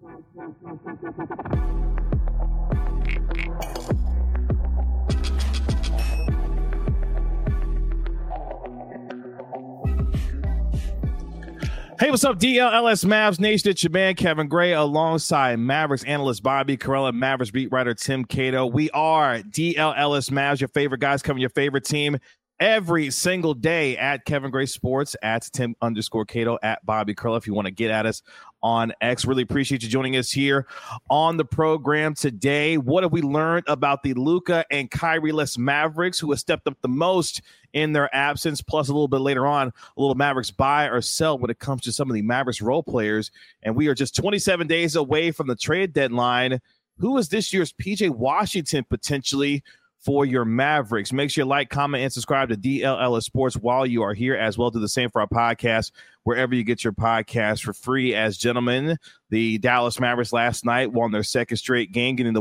Hey, what's up, DLLS Mavs Nation? It's your man, Kevin Gray, alongside Mavericks analyst Bobby Karalla, Mavericks beat writer Tim Cato. We are DLLS Mavs, your favorite guys covering your favorite team every single day at Kevin Gray Sports, at Tim_Cato, at Bobby Karalla. If you want to get at us on X, really appreciate you joining us here on the program today. What have we learned about the Luka and Kyrie-less Mavericks, who have stepped up the most in their absence? Plus, a little bit later on, a little Mavericks buy or sell when it comes to some of the Mavericks role players. And we are just 27 days away from the trade deadline. Who is this year's PJ Washington potentially for your Mavericks? Make sure you like, comment, and subscribe to DLLS Sports while you are here, as well. Do the same for our podcast, wherever you get your podcast for free. As gentlemen, the Dallas Mavericks last night won their second straight game, getting the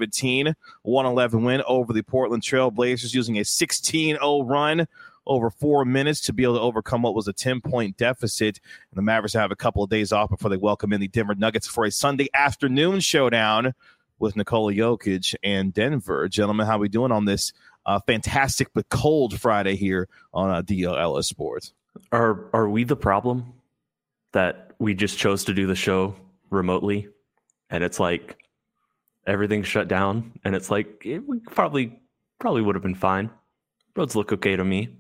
117-111 win over the Portland Trail Blazers, using a 16-0 run over 4 minutes to be able to overcome what was a 10-point deficit. And the Mavericks have a couple of days off before they welcome in the Denver Nuggets for a Sunday afternoon showdown with Nikola Jokic and Denver. Gentlemen, how are we doing on this fantastic but cold Friday here on DLLS Sports? Are we the problem that we just chose to do the show remotely, and it's like everything's shut down, and it's like we probably would have been fine. Roads look okay to me.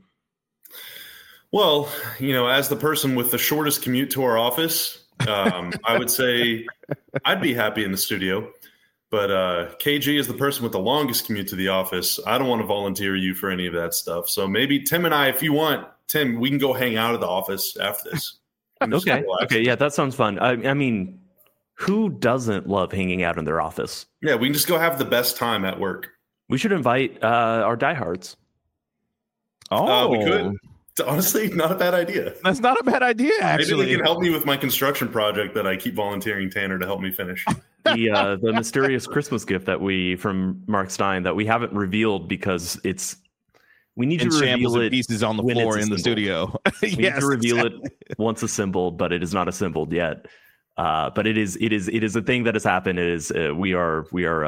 Well, as the person with the shortest commute to our office, I would say I'd be happy in the studio. But KG is the person with the longest commute to the office. I don't want to volunteer you for any of that stuff. So maybe Tim and I, if you want, Tim, we can go hang out at the office after this. Okay, yeah, that sounds fun. I mean, who doesn't love hanging out in their office? Yeah, we can just go have the best time at work. We should invite our diehards. We could. Honestly, not a bad idea. That's not a bad idea, actually. Maybe they can help me with my construction project that I keep volunteering Tanner to help me finish. The mysterious Christmas gift from Mark Stein that we haven't revealed because we need to reveal it. Pieces on the floor in the studio. We need to reveal it once assembled, but it is not assembled yet. But it is a thing that has happened. It is we are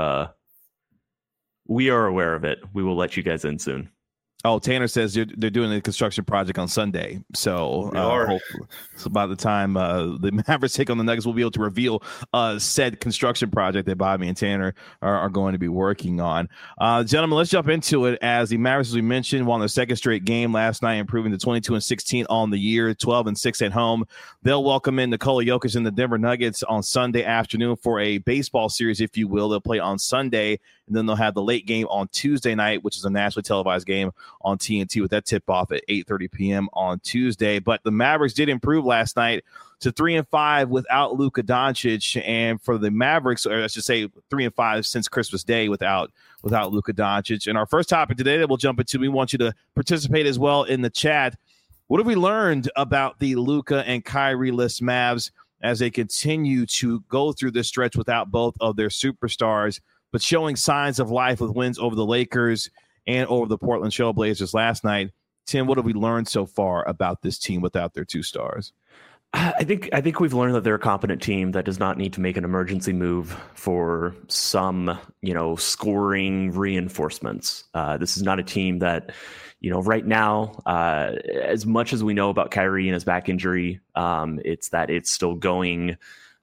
aware of it. We will let you guys in soon. Oh, Tanner says they're doing a construction project on Sunday. So, by the time the Mavericks take on the Nuggets, we'll be able to reveal said construction project that Bobby and Tanner are going to be working on. Gentlemen, let's jump into it. As the Mavericks, as we mentioned, won their second straight game last night, improving to 22-16 on the year, 12-6 at home. They'll welcome in Nikola Jokic and the Denver Nuggets on Sunday afternoon for a baseball series, if you will. They'll play on Sunday, and then they'll have the late game on Tuesday night, which is a nationally televised game on TNT, with that tip-off at 8:30 p.m. on Tuesday. But the Mavericks did improve last night to 3-5 without Luka Doncic, and for the Mavericks, or I should say 3-5 since Christmas Day without Luka Doncic. And our first topic today that we'll jump into, we want you to participate as well in the chat. What have we learned about the Luka and Kyrie-less Mavs as they continue to go through this stretch without both of their superstars, but showing signs of life with wins over the Lakers and over the Portland Trail Blazers last night? Tim, what have we learned so far about this team without their two stars? I think we've learned that they're a competent team that does not need to make an emergency move for some, scoring reinforcements. This is not a team that, right now, as much as we know about Kyrie and his back injury, it's that it's still going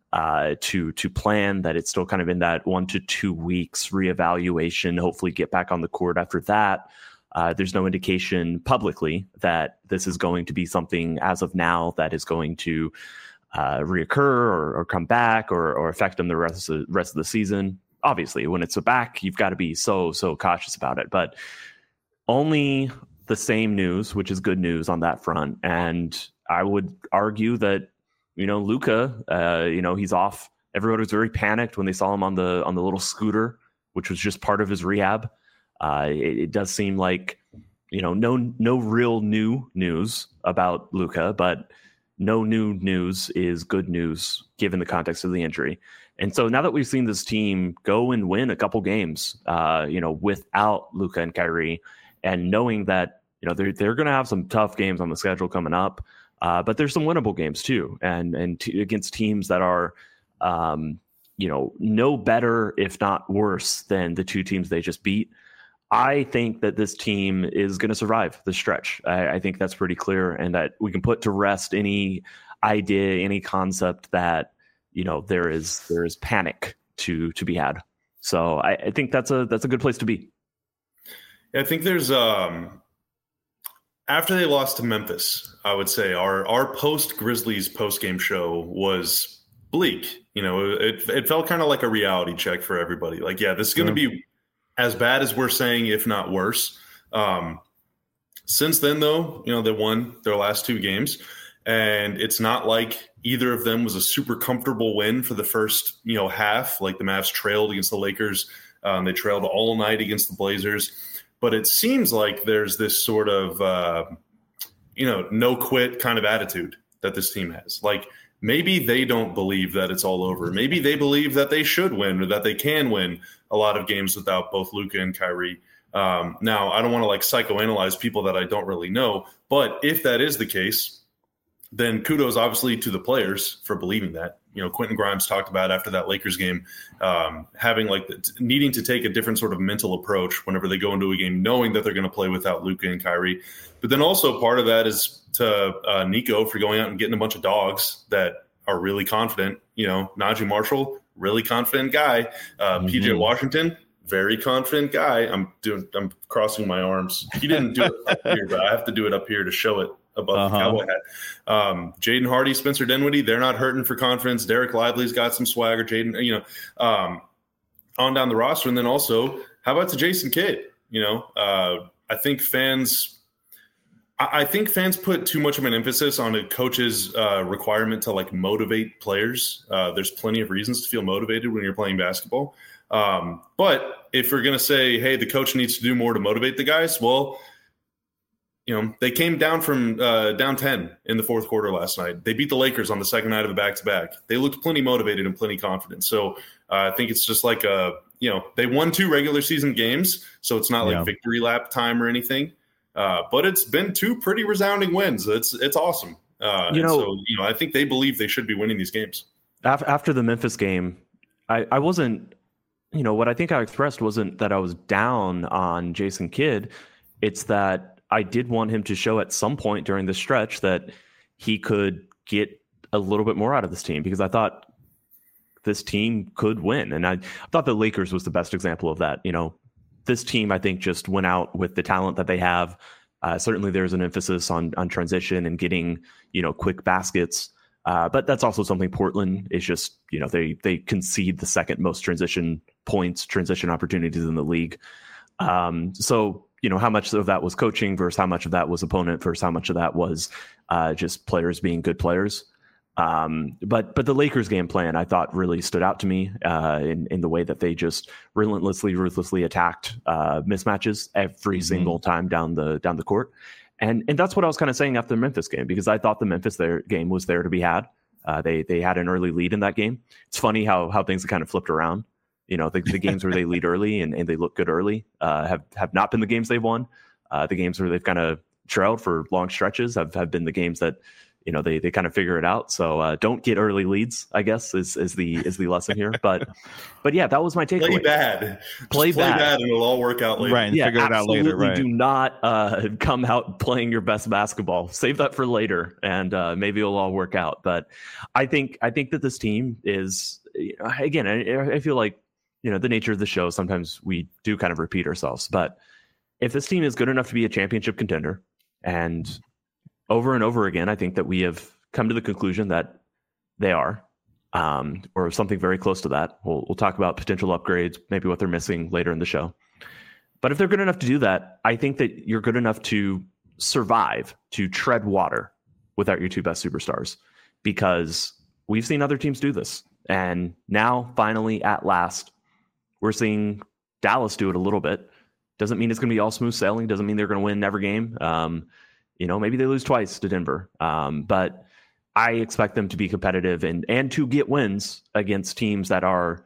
to plan, that it's still kind of in that 1 to 2 weeks reevaluation, hopefully get back on the court after that. There's no indication publicly that this is going to be something as of now that is going to reoccur or come back or affect them the rest of the season. Obviously, when it's a back, you've got to be so cautious about it, but only the same news, which is good news on that front. And I would argue that, Luka, he's off. Everyone was very panicked when they saw him on the little scooter, which was just part of his rehab. It does seem like, no real new news about Luka, but no new news is good news given the context of the injury. And so now that we've seen this team go and win a couple games, without Luka and Kyrie, and knowing that, they're going to have some tough games on the schedule coming up, but there's some winnable games too, and against teams that are, no better, if not worse, than the two teams they just beat. I think that this team is going to survive the stretch. I think that's pretty clear, and that we can put to rest any idea, any concept that there is panic to be had. So I think that's a good place to be. Yeah, I think there's after they lost to Memphis, I would say our post Grizzlies post game show was bleak. It felt kind of like a reality check for everybody. Like, yeah, this is going to be as bad as we're saying, if not worse. Since then, though, they won their last two games, and it's not like either of them was a super comfortable win for the first, half. Like the Mavs trailed against the Lakers. They trailed all night against the Blazers. But it seems like there's this sort of, no quit kind of attitude that this team has. Like, maybe they don't believe that it's all over. Maybe they believe that they should win or that they can win a lot of games without both Luka and Kyrie. Now, I don't want to psychoanalyze people that I don't really know, but if that is the case, then kudos obviously to the players for believing that. Quentin Grimes talked about after that Lakers game, having needing to take a different sort of mental approach whenever they go into a game, knowing that they're going to play without Luka and Kyrie. But then also part of that is to Nico for going out and getting a bunch of dogs that are really confident. Najee Marshall, really confident guy. PJ Washington, very confident guy. I'm crossing my arms. He didn't do it up here, but I have to do it up here to show it above the cowboy hat. Jaden Hardy, Spencer Dinwiddie, they're not hurting for confidence. Derek Lively's got some swagger. Jaden, on down the roster. And then also, how about to Jason Kidd? I think fans put too much of an emphasis on a coach's requirement to motivate players. There's plenty of reasons to feel motivated when you're playing basketball. But if we're going to say, hey, the coach needs to do more to motivate the guys, well, they came down from down 10 in the fourth quarter last night. They beat the Lakers on the second night of a back-to-back. They looked plenty motivated and plenty confident. So I think it's just they won 2 regular season games, so it's not victory lap time or anything. But it's been 2 pretty resounding wins. It's awesome. I think they believe they should be winning these games. After the Memphis game, I wasn't, what I think I expressed wasn't that I was down on Jason Kidd. It's that I did want him to show at some point during the stretch that he could get a little bit more out of this team, because I thought this team could win. And I thought the Lakers was the best example of that. This team, I think, just went out with the talent that they have. Certainly there's an emphasis on transition and getting, quick baskets. But that's also something Portland is just, they concede the second most transition opportunities in the league. So, how much of that was coaching versus how much of that was opponent versus how much of that was just players being good players. But the Lakers game plan, I thought, really stood out to me in the way that they just ruthlessly attacked mismatches every single time down the court. And that's what I was kind of saying after the Memphis game, because I thought the Memphis game was there to be had. They had an early lead in that game. It's funny how things have kind of flipped around. The games where they lead early and they look good early have not been the games they've won. The games where they've kind of trailed for long stretches have been the games that they kind of figure it out. So don't get early leads, I guess, is the lesson here. But yeah, that was my takeaway. Play bad, and it'll all work out later. Right, and figure it out later. Right. Do not come out playing your best basketball. Save that for later, and maybe it'll all work out. But I think that this team is, again, I feel like, the nature of the show, sometimes we do kind of repeat ourselves. But if this team is good enough to be a championship contender, and over and over again, I think that we have come to the conclusion that they are, or something very close to that. We'll talk about potential upgrades, maybe what they're missing later in the show. But if they're good enough to do that, I think that you're good enough to survive, to tread water without your 2 best superstars, because we've seen other teams do this. And now, finally, at last, we're seeing Dallas do it a little bit. Doesn't mean it's going to be all smooth sailing. Doesn't mean they're going to win every game. Maybe they lose twice to Denver. But I expect them to be competitive and to get wins against teams that are,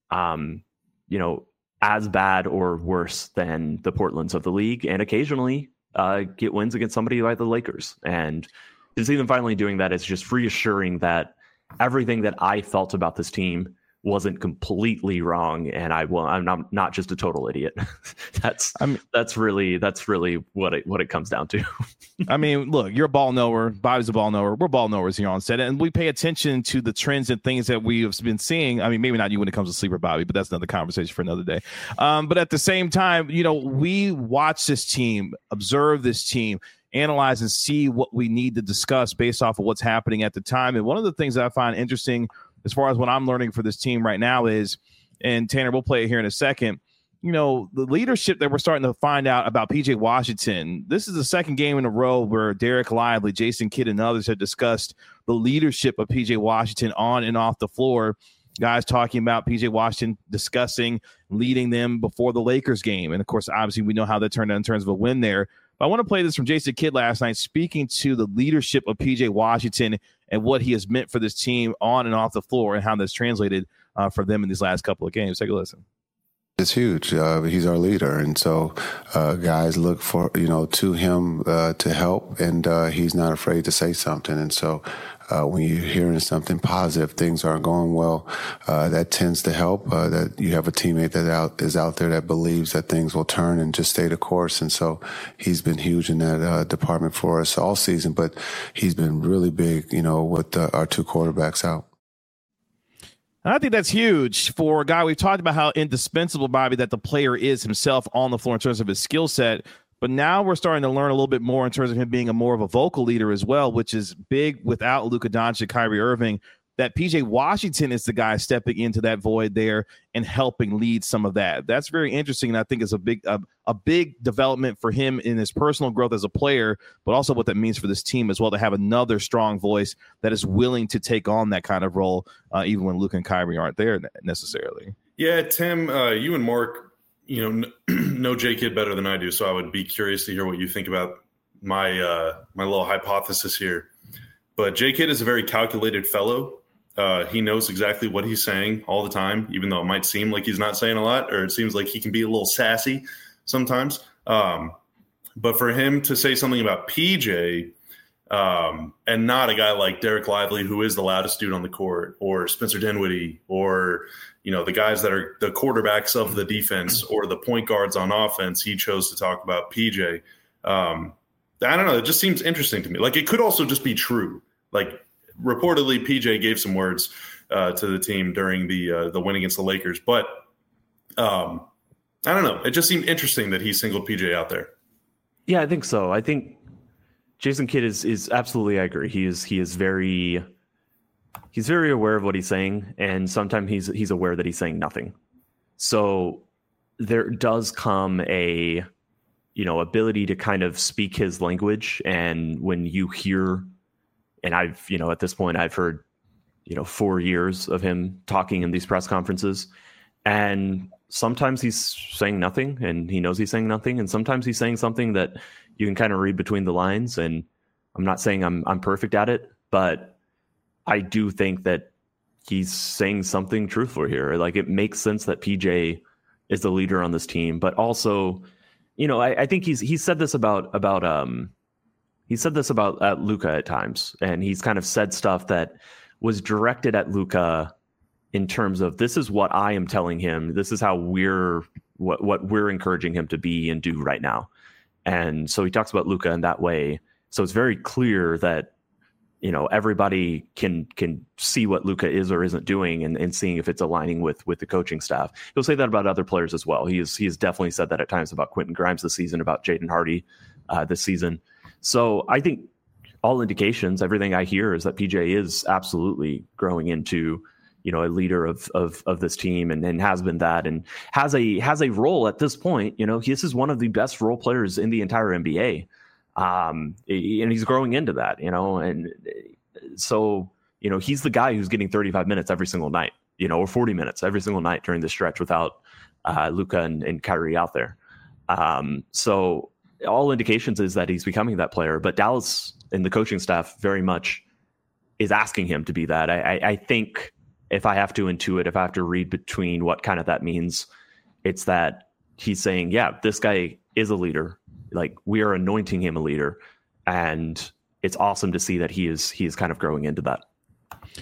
as bad or worse than the Portlands of the league, and occasionally get wins against somebody like the Lakers. And to see them finally doing that is just reassuring that everything that I felt about this team wasn't completely wrong, and I'm not just a total idiot. That's really what it comes down to. I mean, look, you're a ball knower. Bobby's a ball knower. We're ball knowers here on set, and we pay attention to the trends and things that we have been seeing. I mean, maybe not you when it comes to sleeper, Bobby, but that's another conversation for another day. But at the same time, we watch this team, observe this team, analyze and see what we need to discuss based off of what's happening at the time. And one of the things that I find interesting as far as what I'm learning for this team right now is, and Tanner, we'll play it here in a second, the leadership that we're starting to find out about PJ Washington. This is the second game in a row where Derek Lively, Jason Kidd, and others have discussed the leadership of PJ Washington on and off the floor. Guys talking about PJ Washington discussing leading them before the Lakers game. And, of course, obviously we know how that turned out in terms of a win there. But I want to play this from Jason Kidd last night, speaking to the leadership of PJ Washington and what he has meant for this team on and off the floor and how that's translated for them in these last couple of games. Take a listen. It's huge. He's our leader. And so guys look for, to him to help, and he's not afraid to say something. And so when you're hearing something positive, things aren't going well, that tends to help, that you have a teammate that is out there that believes that things will turn and just stay the course. And so he's been huge in that department for us all season, but he's been really big, with our two quarterbacks out. And I think that's huge for a guy. We've talked about how indispensable, Bobby, that the player is himself on the floor in terms of his skill set. But now we're starting to learn a little bit more in terms of him being more of a vocal leader as well, which is big without Luka Doncic, Kyrie Irving, that PJ Washington is the guy stepping into that void there and helping lead some of that. That's very interesting, and I think is a big development for him in his personal growth as a player, but also what that means for this team as well, to have another strong voice that is willing to take on that kind of role, even when Luka and Kyrie aren't there necessarily. Yeah, Tim, you and Mark, know J Kidd better than I do, so I would be curious to hear what you think about my my little hypothesis here. But J Kidd is a very calculated fellow. He knows exactly what he's saying all the time, even though it might seem like he's not saying a lot, or it seems like he can be a little sassy sometimes. But for him to say something about PJ and not a guy like Derek Lively, who is the loudest dude on the court, or Spencer Dinwiddie, or the guys that are the quarterbacks of the defense or the point guards on offense, he chose to talk about PJ. I don't know. It just seems interesting to me. Like, it could also just be true. Like, reportedly, PJ gave some words to the team during the win against the Lakers, but I don't know. It just seemed interesting that he singled PJ out there. Yeah, I think so. I think Jason Kidd is absolutely. I agree. He's very aware of what he's saying, and sometimes he's aware that he's saying nothing. So there does come a ability to kind of speak his language, and when you hear. And I've, at this point, I've heard, 4 years of him talking in these press conferences. And sometimes he's saying nothing and he knows he's saying nothing. And sometimes he's saying something that you can kind of read between the lines. And I'm not saying I'm perfect at it, but I do think that he's saying something truthful here. Like, it makes sense that PJ is the leader on this team. But also, I think he said this about Luka at times, and he's kind of said stuff that was directed at Luka in terms of, this is what I am telling him. This is how what we're encouraging him to be and do right now. And so he talks about Luka in that way. So it's very clear that, everybody can see what Luka is or isn't doing and seeing if it's aligning with the coaching staff. He'll say that about other players as well. He has definitely said that at times about Quentin Grimes this season, about Jaden Hardy this season. So I think all indications, everything I hear is that PJ is absolutely growing into, a leader of this team and has been that, and has a role at this point. This is one of the best role players in the entire NBA. And he's growing into that, and so, he's the guy who's getting 35 minutes every single night, or 40 minutes every single night during the stretch without Luka and Kyrie out there. So all indications is that he's becoming that player, but Dallas and the coaching staff very much is asking him to be that. I think if I have to intuit, if I have to read between what kind of that means, it's that he's saying, yeah, this guy is a leader. Like, we are anointing him a leader, and it's awesome to see that he is kind of growing into that.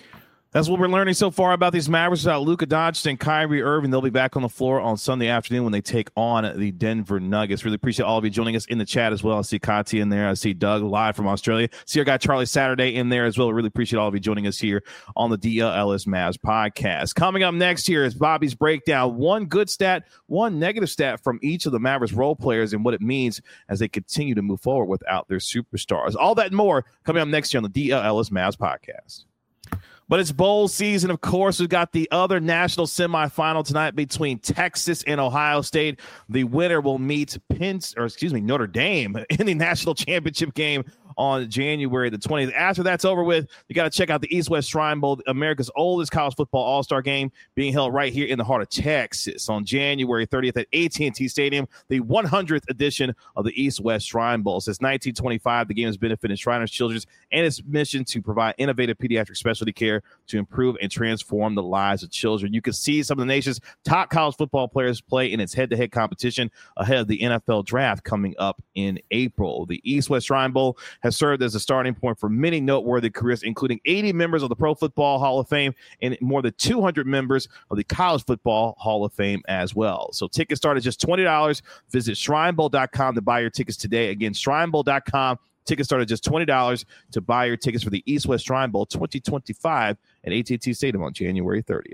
That's what we're learning so far about these Mavericks, about Luka Doncic and Kyrie Irving. They'll be back on the floor on Sunday afternoon when they take on the Denver Nuggets. Really appreciate all of you joining us in the chat as well. I see Kati in there. I see Doug live from Australia. See our guy Charlie Saturday in there as well. Really appreciate all of you joining us here on the DLLS Mavs podcast. Coming up next here is Bobby's breakdown. One good stat, one negative stat from each of the Mavericks role players and what it means as they continue to move forward without their superstars. All that and more coming up next year on the DLLS Mavs podcast. But it's bowl season, of course. We've got the other national semifinal tonight between Texas and Ohio State. The winner will meet Notre Dame in the national championship game on January the 20th. After that's over with, you got to check out the East-West Shrine Bowl, America's oldest college football all-star game, being held right here in the heart of Texas on January 30th at AT&T Stadium, the 100th edition of the East-West Shrine Bowl. Since 1925, the game has benefited Shriners Children's and its mission to provide innovative pediatric specialty care to improve and transform the lives of children. You can see some of the nation's top college football players play in its head-to-head competition ahead of the NFL draft coming up in April. The East-West Shrine Bowl has served as a starting point for many noteworthy careers, including 80 members of the Pro Football Hall of Fame and more than 200 members of the College Football Hall of Fame as well. So tickets start at just $20. Visit shrinebowl.com to buy your tickets today. Again, shrinebowl.com. Tickets start at just $20 to buy your tickets for the East-West Shrine Bowl 2025 at AT&T Stadium on January 30th.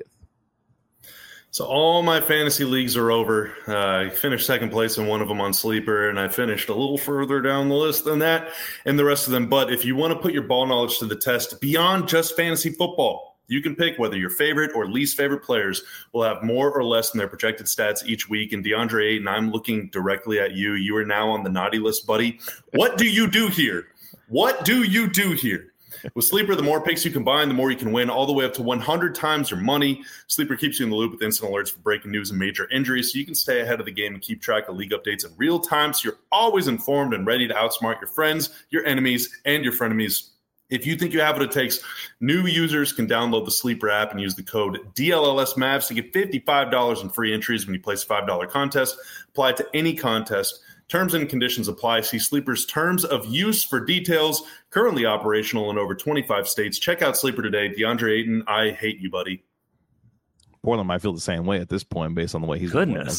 So all my fantasy leagues are over. I finished second place in one of them on Sleeper, and I finished a little further down the list than that and the rest of them. But if you want to put your ball knowledge to the test beyond just fantasy football, you can pick whether your favorite or least favorite players will have more or less than their projected stats each week. And DeAndre Ayton, I'm looking directly at you. You are now on the naughty list, buddy. What do you do here? What do you do here? With Sleeper, the more picks you combine, the more you can win, all the way up to 100 times your money. Sleeper keeps you in the loop with instant alerts for breaking news and major injuries, so you can stay ahead of the game and keep track of league updates in real time, so you're always informed and ready to outsmart your friends, your enemies, and your frenemies. If you think you have what it takes, new users can download the Sleeper app and use the code DLLSMavs to get $55 in free entries when you place a $5 contest. Apply it to any contest. Terms and conditions apply. See Sleeper's terms of use for details. Currently operational in over 25 states. Check out Sleeper today. DeAndre Ayton, I hate you, buddy. Portland might feel the same way at this point based on the way he's goodness.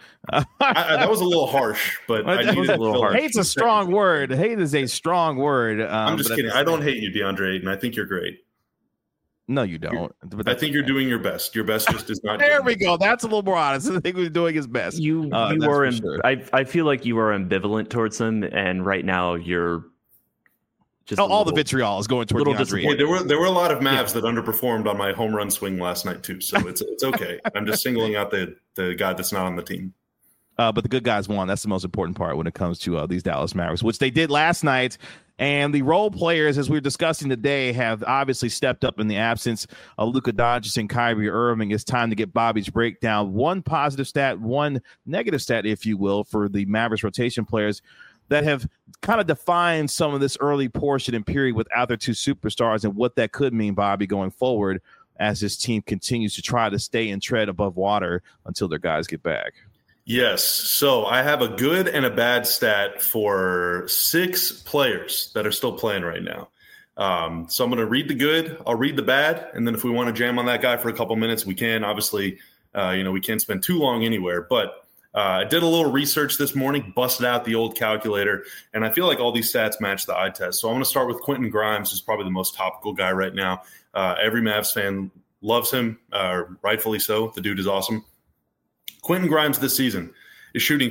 That was a little harsh, but I needed a little harsh. Hate's a strong word. Hate is a strong word. I'm just kidding. I don't hate you, DeAndre Ayton. I think you're great. No, you don't. I think you're doing your best. Your best just is not. There we go. That's a little more honest. I think he's doing his best. You were. Sure. I feel like you are ambivalent towards him, and right now you're just all the vitriol is going towards DeAndre. Hey, there were a lot of Mavs that underperformed on my home run swing last night too, so it's okay. I'm just singling out the guy that's not on the team. But the good guys won. That's the most important part when it comes to these Dallas Mavericks, which they did last night. And the role players, as we were discussing today, have obviously stepped up in the absence of Luka Doncic and Kyrie Irving. It's time to get Bobby's breakdown. One positive stat, one negative stat, if you will, for the Mavericks rotation players that have kind of defined some of this early portion and period without their two superstars and what that could mean, Bobby, going forward as this team continues to try to stay and tread above water until their guys get back. Yes. So I have a good and a bad stat for 6 players that are still playing right now. So I'm going to read the good. I'll read the bad. And then if we want to jam on that guy for a couple minutes, we can. Obviously, we can't spend too long anywhere. But I did a little research this morning, busted out the old calculator, and I feel like all these stats match the eye test. So I'm going to start with Quentin Grimes, who's probably the most topical guy right now. Every Mavs fan loves him, rightfully so. The dude is awesome. Quentin Grimes this season is shooting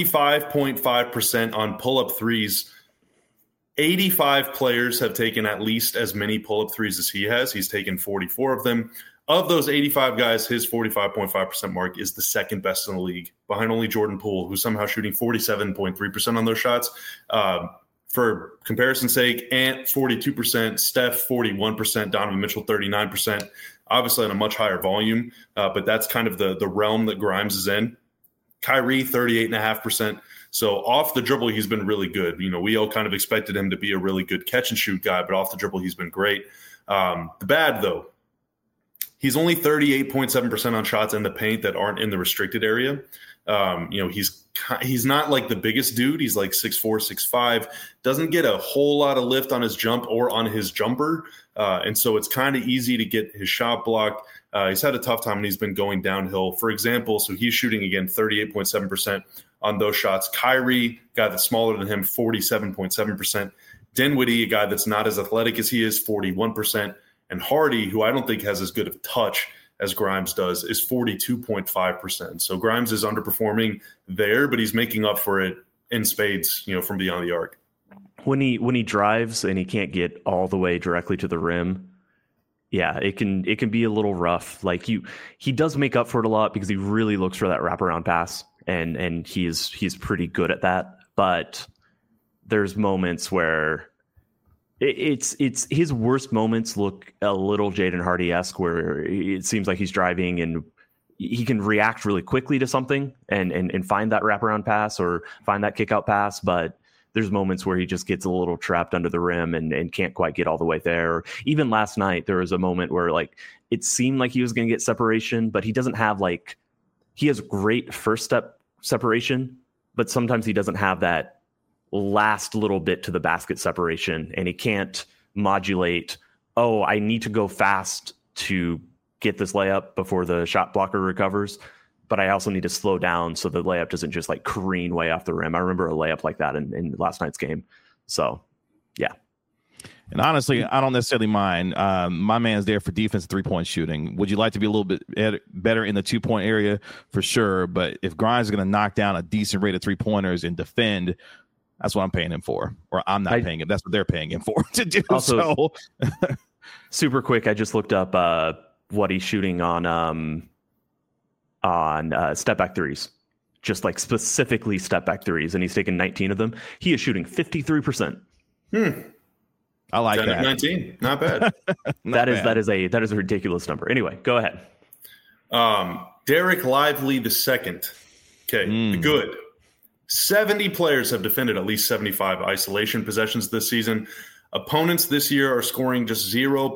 45.5% on pull-up threes. 85 players have taken at least as many pull-up threes as he has. He's taken 44 of them. Of those 85 guys, his 45.5% mark is the second best in the league, behind only Jordan Poole, who's somehow shooting 47.3% on those shots. For comparison's sake, Ant 42%, Steph 41%, Donovan Mitchell 39%. Obviously on a much higher volume, but that's kind of the realm that Grimes is in. Kyrie, 38.5%. So off the dribble, he's been really good. We all kind of expected him to be a really good catch-and-shoot guy, but off the dribble, he's been great. The bad, though, he's only 38.7% on shots in the paint that aren't in the restricted area. He's not like the biggest dude. He's like 6'4", 6'5", doesn't get a whole lot of lift on his jump or on his jumper. And so it's kind of easy to get his shot blocked. He's had a tough time and he's been going downhill. For example, so he's shooting, again, 38.7% on those shots. Kyrie, guy that's smaller than him, 47.7%. Dinwiddie, a guy that's not as athletic as he is, 41%. And Hardy, who I don't think has as good of touch as Grimes does, is 42.5%. So Grimes is underperforming there, but he's making up for it in spades, from beyond the arc. When he drives and he can't get all the way directly to the rim, yeah, it can be a little rough. Like he does make up for it a lot because he really looks for that wraparound pass, and he's pretty good at that. But there's moments where it's his worst moments look a little Jaden Hardy-esque, where it seems like he's driving and he can react really quickly to something and find that wraparound pass or find that kick out pass, but there's moments where he just gets a little trapped under the rim and can't quite get all the way there. Or even last night, there was a moment where like it seemed like he was going to get separation, but he doesn't have he has great first step separation, but sometimes he doesn't have that last little bit to the basket separation, and he can't modulate, oh, I need to go fast to get this layup before the shot blocker recovers, but I also need to slow down so the layup doesn't just careen way off the rim. I remember a layup like that in last night's game. So, yeah. And honestly, I don't necessarily mind. My man's there for defense, 3-point shooting. Would you like to be a little bit better in the 2-point area? For sure. But if Grimes is going to knock down a decent rate of 3-pointers and defend, that's what I'm paying him for. Or I'm not paying him. That's what they're paying him for to do. Also, super quick, I just looked up what he's shooting on step back threes, just specifically step back threes, and he's taken 19 of them. He is shooting 53%. I like that. 19, not bad. That is a ridiculous number. Anyway, go ahead. Derek Lively II. Okay, good. 70 players have defended at least 75 isolation possessions this season. Opponents this year are scoring just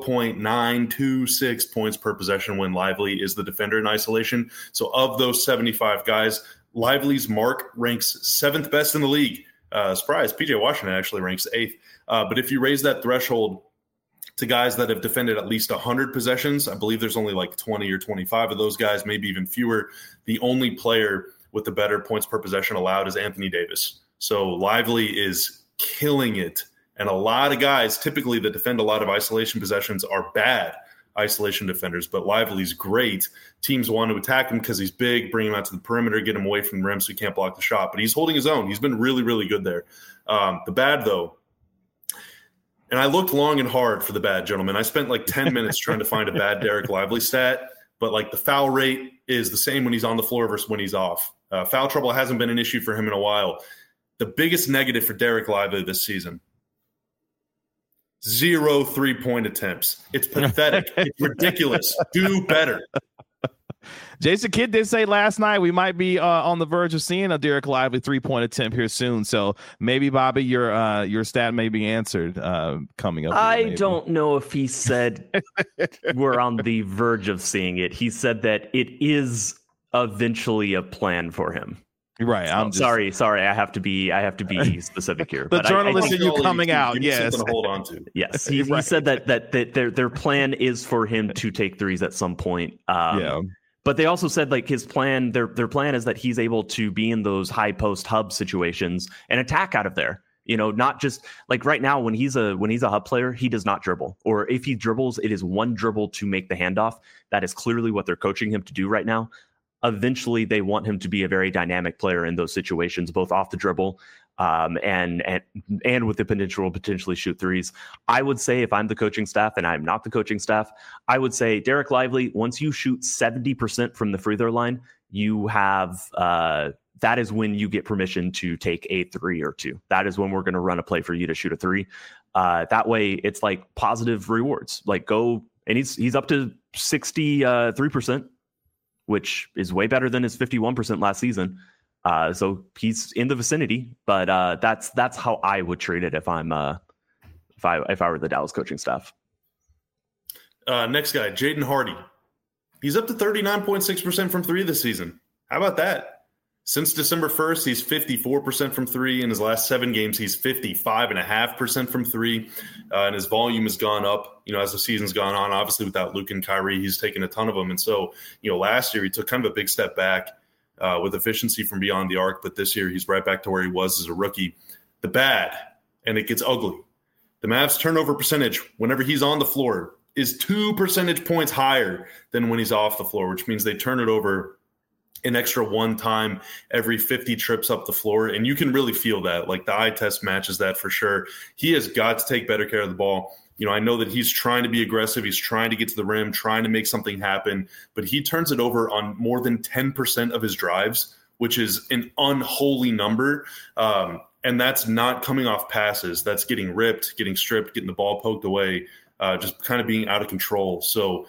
0.926 points per possession when Lively is the defender in isolation. So of those 75 guys, Lively's mark ranks 7th best in the league. Surprise, PJ Washington actually ranks 8th. But if you raise that threshold to guys that have defended at least 100 possessions, I believe there's only 20 or 25 of those guys, maybe even fewer. The only player with the better points per possession allowed is Anthony Davis. So Lively is killing it. And a lot of guys typically that defend a lot of isolation possessions are bad isolation defenders, but Lively's great. Teams want to attack him because he's big, bring him out to the perimeter, get him away from the rim so he can't block the shot. But he's holding his own. He's been really, really good there. The bad, though, and I looked long and hard for the bad, gentlemen. I spent 10 minutes trying to find a bad Derek Lively stat, but the foul rate is the same when he's on the floor versus when he's off. Foul trouble hasn't been an issue for him in a while. The biggest negative for Derek Lively this season, 0 3-point attempts. It's pathetic. It's ridiculous. Do better. Jason Kidd did say last night we might be on the verge of seeing a Derek Lively 3-point attempt here soon. So maybe, Bobby, your stat may be answered coming up. I don't know if he said we're on the verge of seeing it. He said that it is eventually a plan for him. Right. I'm sorry. I have to be specific here. The journalist in you coming out. Yes. Something to hold on to. Yes. He said that their plan is for him to take threes at some point. Yeah. But they also said his plan, their plan is that he's able to be in those high post hub situations and attack out of there. Not just right now when he's a hub player, he does not dribble. Or if he dribbles, it is one dribble to make the handoff. That is clearly what they're coaching him to do right now. Eventually, they want him to be a very dynamic player in those situations, both off the dribble and with the potential potentially shoot threes. I would say if I'm the coaching staff, and I'm not the coaching staff, I would say Derek Lively, once you shoot 70% from the free throw line, you have that is when you get permission to take a 3 or 2. That is when we're going to run a play for you to shoot a 3. That way, it's positive rewards. Go, and he's up to 63%. Which is way better than his 51% last season. So he's in the vicinity, but that's how I would treat it if I'm if I were the Dallas coaching staff. Next guy, Jaden Hardy. He's up to 39.6% from 3 this season. How about that? Since December 1st, he's 54% from three. In his last 7 games, he's 55.5% from three. And his volume has gone up, as the season's gone on. Obviously, without Luke and Kyrie, he's taken a ton of them. And so, last year he took kind of a big step back with efficiency from beyond the arc. But this year he's right back to where he was as a rookie. The bad, and it gets ugly. The Mavs' turnover percentage, whenever he's on the floor, is 2 percentage points higher than when he's off the floor, which means they turn it over an extra 1 time every 50 trips up the floor. And you can really feel that. Like, the eye test matches that for sure. He has got to take better care of the ball. I know that he's trying to be aggressive. He's trying to get to the rim, trying to make something happen. But he turns it over on more than 10% of his drives, which is an unholy number. And that's not coming off passes. That's getting ripped, getting stripped, getting the ball poked away, just kind of being out of control. So,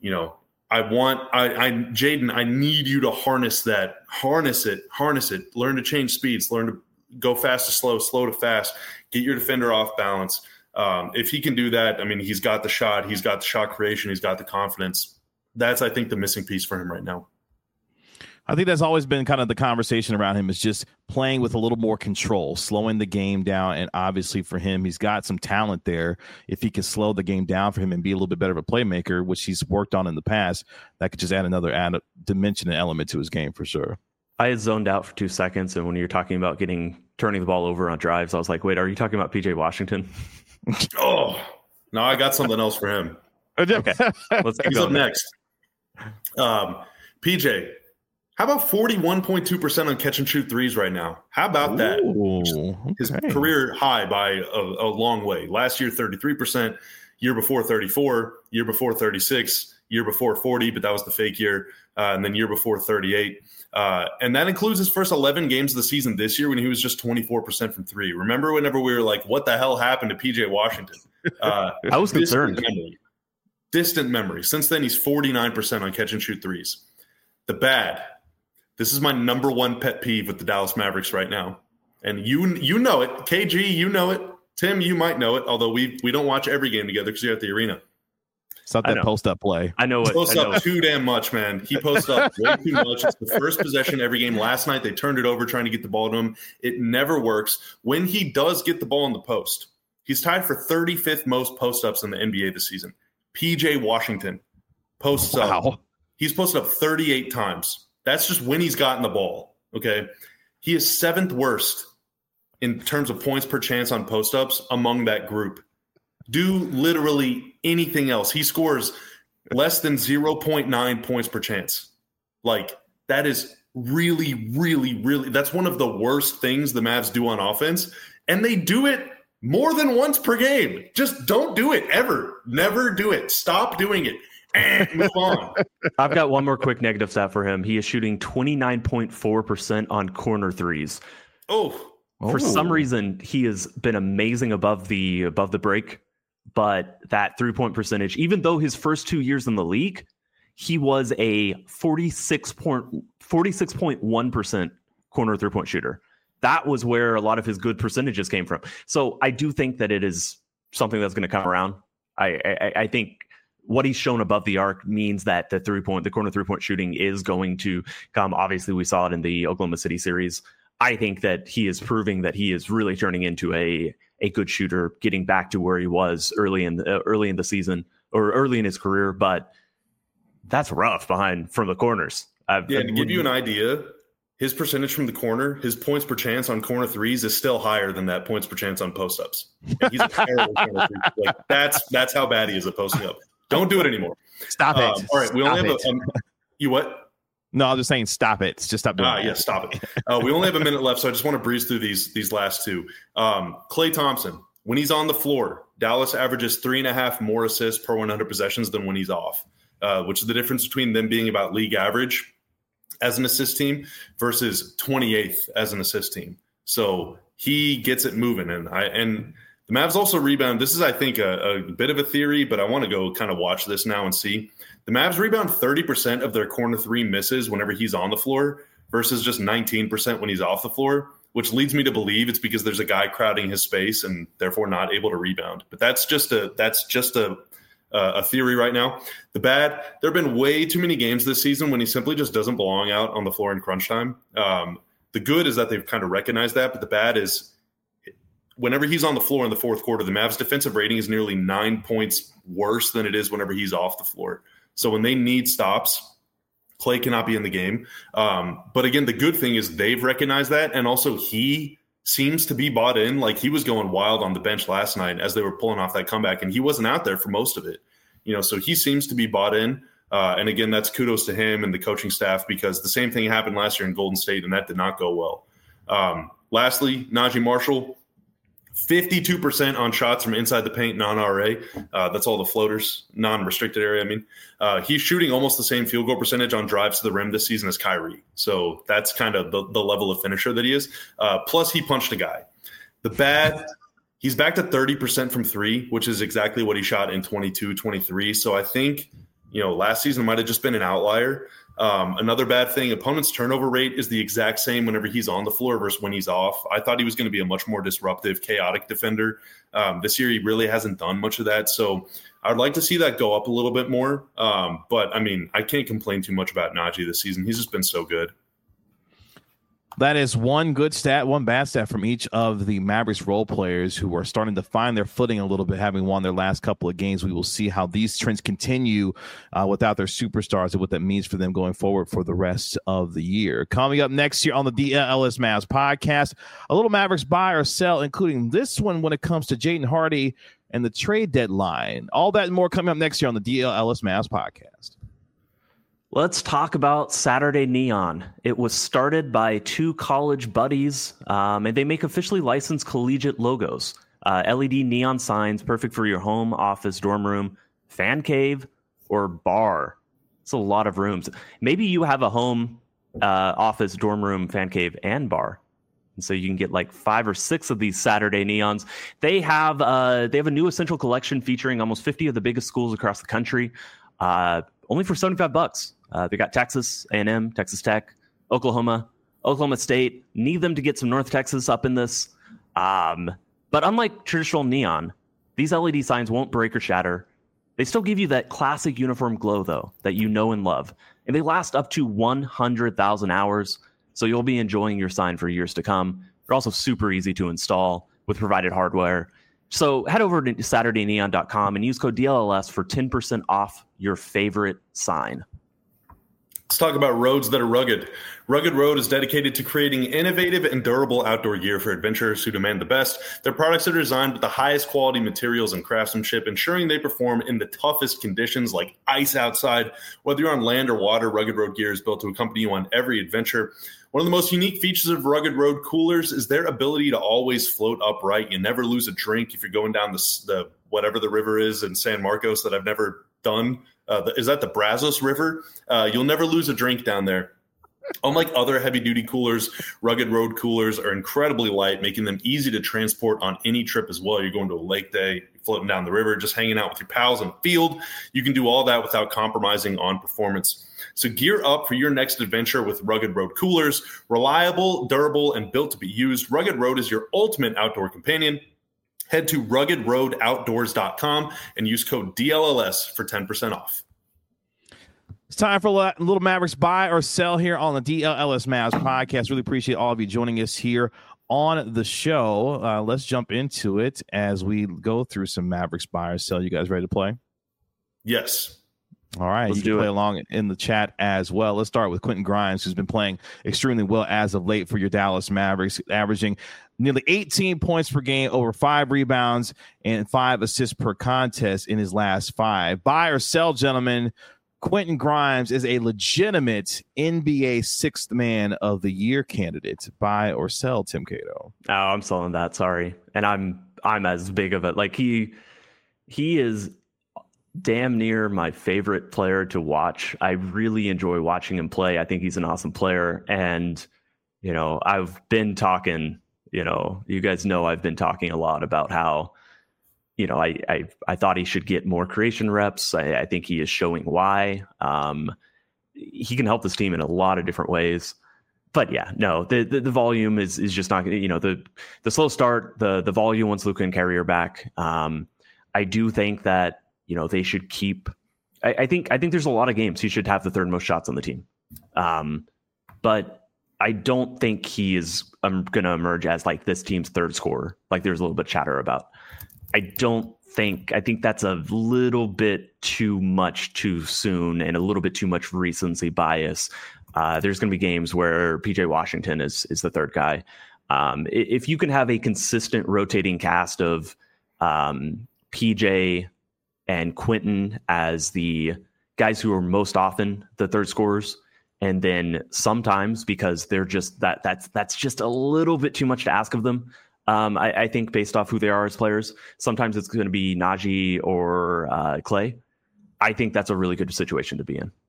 Jaden, I need you to harness that. Harness it. Learn to change speeds. Learn to go fast to slow, slow to fast. Get your defender off balance. If he can do that, he's got the shot. He's got the shot creation. He's got the confidence. That's, I think, the missing piece for him right now. I think that's always been kind of the conversation around him, is just playing with a little more control, slowing the game down. And obviously for him, he's got some talent there. If he can slow the game down for him and be a little bit better of a playmaker, which he's worked on in the past, that could just add another dimension and element to his game for sure. I had zoned out for 2 seconds. And when you're talking about turning the ball over on drives, I was like, wait, are you talking about PJ Washington? Oh, no, I got something else for him. Okay. Let's He's up next. PJ. How about 41.2% on catch and shoot threes right now? How about that? Okay. His career high by a long way. Last year, 33%. Year before, 34. Year before, 36. Year before, 40, but that was the fake year. And then year before, 38. And that includes his first 11 games of the season this year when he was just 24% from three. Remember whenever we were like, what the hell happened to PJ Washington? I was concerned. Distant memory. Since then, he's 49% on catch and shoot threes. The bad. This is my number one pet peeve with the Dallas Mavericks right now. And you know it. KG, you know it. Tim, you might know it, although we don't watch every game together because you're at the arena. It's not that post-up play. I know it. He posts up too damn much, man. He posts up way too much. It's the first possession every game. Last night, they turned it over trying to get the ball to him. It never works. When he does get the ball in the post, he's tied for 35th most post-ups in the NBA this season. PJ Washington posts up. He's posted up 38 times. That's just when he's gotten the ball, okay? He is 7th worst in terms of points per chance on post-ups among that group. Do literally anything else. He scores less than 0.9 points per chance. Like, that is really, really, really – that's one of the worst things the Mavs do on offense, and they do it more than once per game. Just don't do it ever. Never do it. Stop doing it. And move on. I've got one more quick negative stat for him. He is shooting 29.4% on corner threes. For some reason, he has been amazing above the break, but that 3-point percentage, even though his first 2 years in the league, he was a 46.1% corner 3-point shooter. That was where a lot of his good percentages came from. So I do think that it is something that's going to come around. I think what he's shown above the arc means that the corner 3-point shooting is going to come. Obviously, we saw it in the Oklahoma City series. I think that he is proving that he is really turning into a good shooter, getting back to where he was early in the season or early in his career. But that's rough from the corners. To give you an idea, his percentage from the corner, his points per chance on corner threes is still higher than that points per chance on post-ups. He's a terrible corner three. Like, that's how bad he is at posting up. Don't do it anymore. Stop it. All right, we only have you what? No, I was just saying stop it. Just stop doing it. Yeah, stop it. We only have a minute left, so I just want to breeze through these last two. Klay Thompson, when he's on the floor, Dallas averages 3.5 more assists per 100 possessions than when he's off, which is the difference between them being about league average as an assist team versus 28th as an assist team. So he gets it moving, and the Mavs also rebound. This is, I think, a bit of a theory, but I want to go kind of watch this now and see. The Mavs rebound 30% of their corner three misses whenever he's on the floor versus just 19% when he's off the floor, which leads me to believe it's because there's a guy crowding his space and therefore not able to rebound. But that's just a a theory right now. The bad, there have been way too many games this season when he simply just doesn't belong out on the floor in crunch time. The good is that they've kind of recognized that, but the bad is whenever he's on the floor in the fourth quarter, the Mavs defensive rating is nearly 9 points worse than it is whenever he's off the floor. So when they need stops, Klay cannot be in the game. But again, the good thing is they've recognized that, and also he seems to be bought in. Like, he was going wild on the bench last night as they were pulling off that comeback, and he wasn't out there for most of it. So he seems to be bought in. And again, that's kudos to him and the coaching staff, because the same thing happened last year in Golden State, and that did not go well. Lastly, Najee Marshall, 52% on shots from inside the paint, non-RA. That's all the floaters, non-restricted area. I mean, he's shooting almost the same field goal percentage on drives to the rim this season as Kyrie. So that's kind of the level of finisher that he is. Plus, he punched a guy. The bad, he's back to 30% from three, which is exactly what he shot in 22-23. So I think, last season might have just been an outlier. Another bad thing, opponent's turnover rate is the exact same whenever he's on the floor versus when he's off. I thought he was going to be a much more disruptive, chaotic defender. This year, he really hasn't done much of that. So I'd like to see that go up a little bit more. But, I mean, I can't complain too much about Najee this season. He's just been so good. That is one good stat, one bad stat from each of the Mavericks role players who are starting to find their footing a little bit, having won their last couple of games. We will see how these trends continue without their superstars and what that means for them going forward for the rest of the year. Coming up next year on the DLS Mavs podcast, a little Mavericks buy or sell, including this one when it comes to Jaden Hardy and the trade deadline. All that and more coming up next year on the DLS Mavs podcast. Let's talk about Saturday Neon. It was started by two college buddies, and they make officially licensed collegiate logos. LED neon signs, perfect for your home, office, dorm room, fan cave, or bar. It's a lot of rooms. Maybe you have a home, office, dorm room, fan cave, and bar. And so you can get like 5 or 6 of these Saturday Neons. They have a new essential collection featuring almost 50 of the biggest schools across the country, only for $75. They got Texas A&M, Texas Tech, Oklahoma State. Need them to get some North Texas up in this. But unlike traditional neon, these LED signs won't break or shatter. They still give you that classic uniform glow, though, that you know and love. And they last up to 100,000 hours, so you'll be enjoying your sign for years to come. They're also super easy to install with provided hardware. So head over to SaturdayNeon.com and use code DLLS for 10% off your favorite sign. Let's talk about roads that are rugged. Rugged Road is dedicated to creating innovative and durable outdoor gear for adventurers who demand the best. Their products are designed with the highest quality materials and craftsmanship, ensuring they perform in the toughest conditions like ice outside. Whether you're on land or water, Rugged Road gear is built to accompany you on every adventure. One of the most unique features of Rugged Road coolers is their ability to always float upright. You never lose a drink if you're going down the whatever the river is in San Marcos that I've never done. Is that the Brazos River? You'll never lose a drink down there. Unlike other heavy-duty coolers, Rugged Road coolers are incredibly light, making them easy to transport on any trip as well. You're going to a lake day, floating down the river, just hanging out with your pals in the field. You can do all that without compromising on performance. So gear up for your next adventure with Rugged Road coolers. Reliable, durable, and built to be used, Rugged Road is your ultimate outdoor companion. Head to ruggedroadoutdoors.com and use code DLLS for 10% off. It's time for a little Mavericks buy or sell here on the DLLS Mavs podcast. Really appreciate all of you joining us here on the show. Let's jump into it as we go through some Mavericks buy or sell. You guys ready to play? Yes. All right, you can play along in the chat as well. Let's start with Quentin Grimes, who's been playing extremely well as of late for your Dallas Mavericks, averaging nearly 18 points per game, over 5 rebounds, and 5 assists per contest in his last 5. Buy or sell, gentlemen, Quentin Grimes is a legitimate NBA Sixth Man of the Year candidate. Buy or sell, Tim Cato? Oh, I'm selling that. Sorry, and I'm as big of it. Like he is damn near my favorite player to watch. I really enjoy watching him play. I think he's an awesome player, and I've been talking. You guys know I've been talking a lot about how. I thought he should get more creation reps. I think he is showing why. He can help this team in a lot of different ways. But yeah, no, the volume is just not going to, the slow start, the volume once Luka and Kyrie are back. I do think that, they should keep. I think there's a lot of games he should have the third most shots on the team, but I don't think he is going to emerge as like this team's third scorer. Like there's a little bit of chatter about. I think that's a little bit too much too soon and a little bit too much recency bias. There's going to be games where PJ Washington is the third guy. If you can have a consistent rotating cast of PJ and Quentin as the guys who are most often the third scorers, and then sometimes because they're just that's just a little bit too much to ask of them. I think based off who they are as players, sometimes it's going to be Najee or Clay. I think that's a really good situation to be in.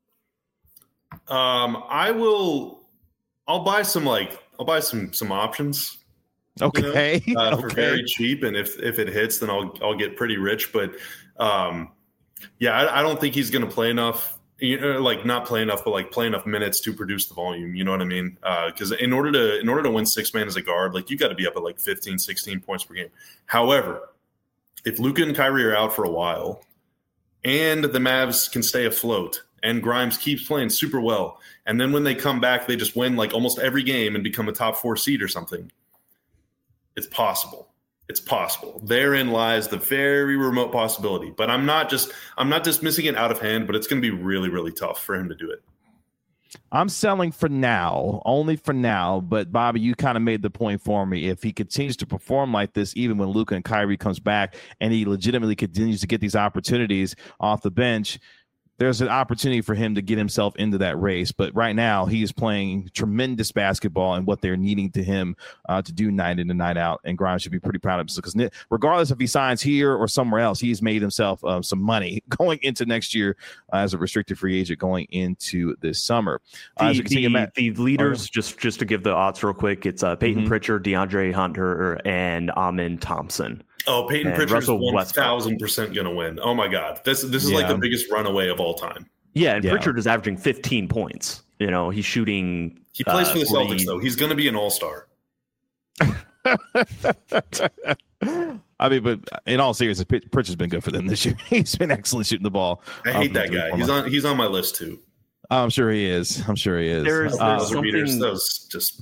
I'll buy some options. Okay. For very cheap. And if it hits, then I'll get pretty rich. But I don't think he's going to play enough. Not play enough, but like play enough minutes to produce the volume. You know what I mean? Because in order to win 6-man as a guard, like you got to be up at like 15, 16 points per game. However, if Luka and Kyrie are out for a while, and the Mavs can stay afloat, and Grimes keeps playing super well, and then when they come back, they just win like almost every game and become a top 4 seed or something. It's possible. It's possible. Therein lies the very remote possibility. But I'm not dismissing it out of hand, but it's going to be really, really tough for him to do it. I'm selling for now, only for now. But Bobby, you kind of made the point for me. If he continues to perform like this, even when Luka and Kyrie comes back and he legitimately continues to get these opportunities off the bench, there's an opportunity for him to get himself into that race. But right now, he is playing tremendous basketball and what they're needing to him to do night in and night out. And Grimes should be pretty proud of himself because regardless if he signs here or somewhere else, he's made himself some money going into next year as a restricted free agent going into this summer. The leaders, just to give the odds real quick, it's Peyton Pritchard, DeAndre Hunter, and Amin Thompson. Oh, Peyton Pritchard's 1,000% going to win. Oh, my God. This is like the biggest runaway of all time. Yeah, and Pritchard is averaging 15 points. He's shooting. He plays for the Celtics, though. He's going to be an all-star. I mean, but in all seriousness, Pritchard's been good for them this year. He's been excellent shooting the ball. I hate that guy. He's on my list, too. I'm sure he is. There's something. That was just...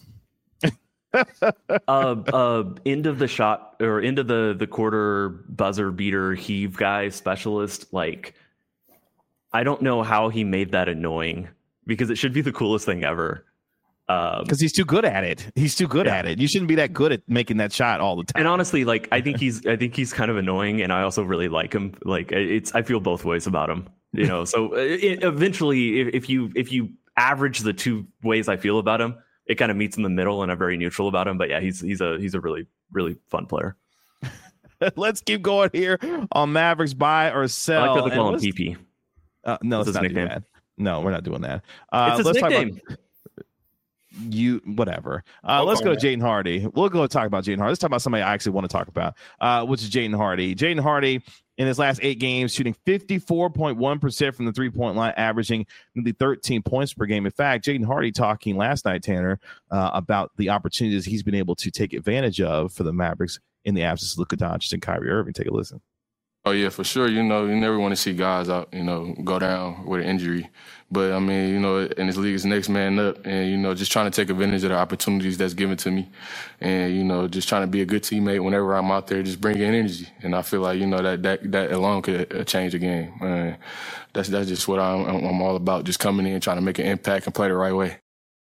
End of the shot or end of the quarter buzzer beater heave guy specialist. Like, I don't know how he made that annoying because it should be the coolest thing ever. Because he's too good at it. He's too good at it. You shouldn't be that good at making that shot all the time. And honestly, like I think he's kind of annoying, and I also really like him. Like I feel both ways about him. So eventually, if you average the two ways I feel about him, it kind of meets in the middle, and I'm very neutral about him. But yeah, he's a really, really fun player. Let's keep going here on Mavericks buy or sell. I like that they call him PP. No, let's not do that. No, we're not doing that. It's his let's nickname. Talk about whatever. Let's go to Jaden Hardy. We'll go talk about Jaden Hardy. Let's talk about somebody I actually want to talk about, which is Jaden Hardy. Jaden Hardy, in his last 8 games, shooting 54.1% from the three-point line, averaging nearly 13 points per game. In fact, Jaden Hardy talking last night, Tanner, about the opportunities he's been able to take advantage of for the Mavericks in the absence of Luka Doncic and Kyrie Irving. Take a listen. Oh, yeah, for sure. You never want to see guys out, go down with an injury. But, I mean, in this league, it's next man up. And, just trying to take advantage of the opportunities that's given to me. And, just trying to be a good teammate whenever I'm out there, just bringing energy. And I feel like, that alone could change a game. That's just what I'm all about, just coming in, trying to make an impact and play the right way.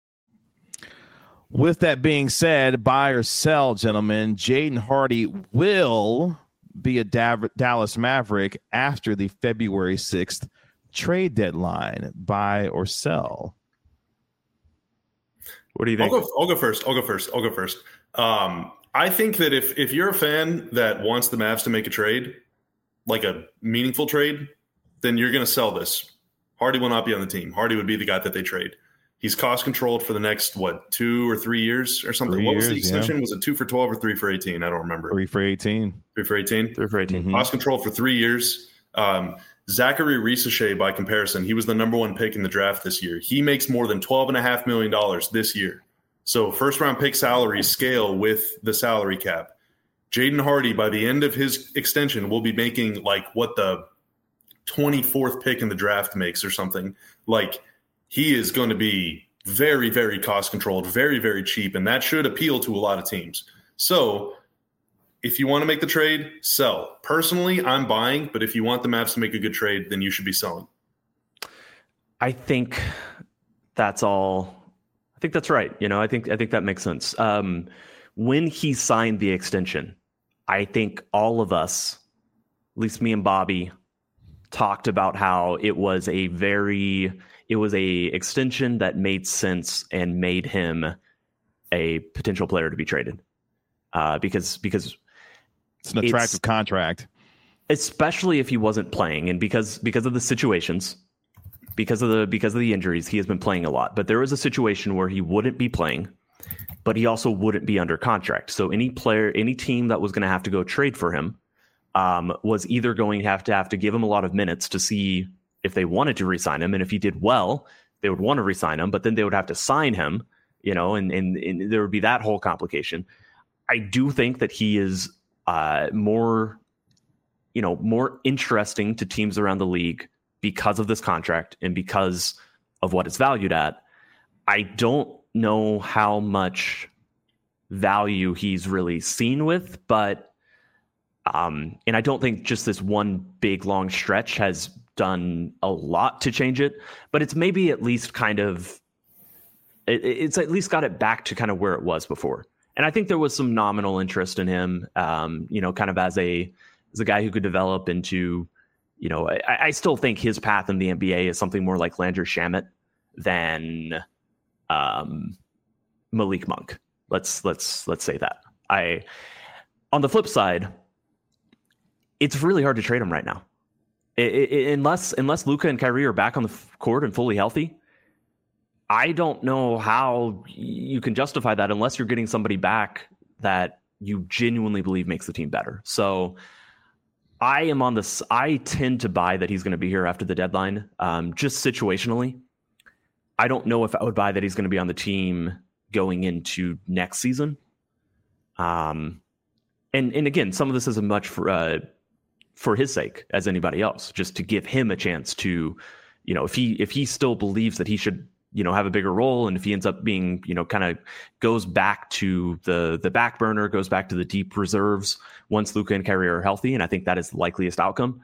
With that being said, buy or sell, gentlemen, Jaden Hardy will be a Dallas Maverick after the February 6th trade deadline. Buy or sell? What do you think? I'll go first. I think that if you're a fan that wants the Mavs to make a trade, like a meaningful trade, then you're going to sell this. Hardy will not be on the team. Hardy would be the guy that they trade. He's cost controlled for the next, 2 or 3 years or something? What was the extension? Yeah. Was it 2 for 12 or 3 for 18? I don't remember. 3 for 18. 3 for 18? 3 for 18. Mm-hmm. Cost controlled for 3 years. Zachary Risachet, by comparison, he was the number 1 pick in the draft this year. He makes more than $12.5 million this year. So first-round pick salaries scale with the salary cap. Jaden Hardy, by the end of his extension, will be making like what the 24th pick in the draft makes or something. Like, he is going to be very, very cost controlled, very, very cheap, and that should appeal to a lot of teams. So if you want to make the trade, sell. Personally, I'm buying, but if you want the Mavs to make a good trade, then you should be selling. I think that's all. I think that's right. I think that makes sense. When he signed the extension, I think all of us, at least me and Bobby, talked about how it was a extension that made sense and made him a potential player to be traded. Because it's an attractive contract, especially if he wasn't playing, and because of the situations, because of the injuries, he has been playing a lot. But there was a situation where he wouldn't be playing, but he also wouldn't be under contract. So any team that was going to have to go trade for him was either going to have to give him a lot of minutes to see if they wanted to re-sign him, and if he did well, they would want to re-sign him. But then they would have to sign him, and there would be that whole complication. I do think that he is more interesting to teams around the league because of this contract and because of what it's valued at. I don't know how much value he's really seen with, but and I don't think just this one big long stretch has done a lot to change it, but it's maybe at least it's at least got it back to kind of where it was before. And I think there was some nominal interest in him, kind of as a guy who could develop into, I still think his path in the NBA is something more like Landry Shamet than Malik Monk. Let's say that. On the flip side, it's really hard to trade him right now, unless Luka and Kyrie are back on the court and fully healthy. I don't know how you can justify that unless you're getting somebody back that you genuinely believe makes the team better. So I am on this. I tend to buy that he's going to be here after the deadline, just situationally. I don't know if I would buy that he's going to be on the team going into next season. And again, some of this isn't much for his sake as anybody else, just to give him a chance to, if he still believes that he should, have a bigger role. And if he ends up being, kind of goes back to the back burner, goes back to the deep reserves once Luka and Kyrie are healthy. And I think that is the likeliest outcome,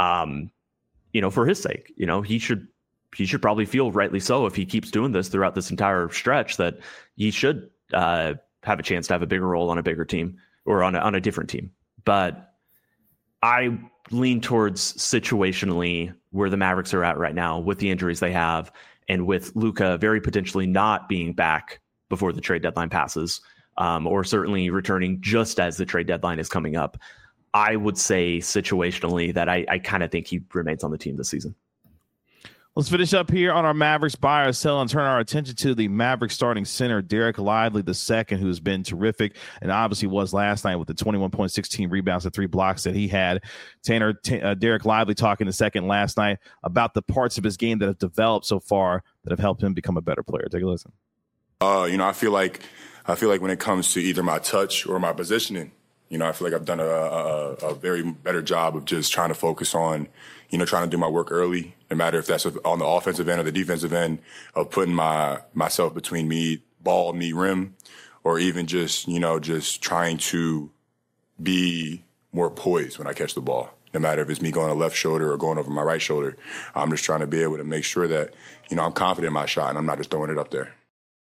for his sake. He should probably feel, rightly so, if he keeps doing this throughout this entire stretch, that he should have a chance to have a bigger role on a bigger team or on a different team. But I lean towards situationally where the Mavericks are at right now with the injuries they have, and with Luka very potentially not being back before the trade deadline passes, or certainly returning just as the trade deadline is coming up. I would say situationally that I kind of think he remains on the team this season. Let's finish up here on our Mavericks buy or sell and turn our attention to the Mavericks starting center, Derek Lively II, who's been terrific and obviously was last night with the 21.16 rebounds and 3 blocks that he had. Derek Lively talking a second last night about the parts of his game that have developed so far that have helped him become a better player. Take a listen. I feel like when it comes to either my touch or my positioning, I feel like I've done a very better job of just trying to focus on, trying to do my work early, no matter if that's on the offensive end or the defensive end, of putting myself between me rim, or even just trying to be more poised when I catch the ball. No matter if it's me going to left shoulder or going over my right shoulder, I'm just trying to be able to make sure that, I'm confident in my shot and I'm not just throwing it up there.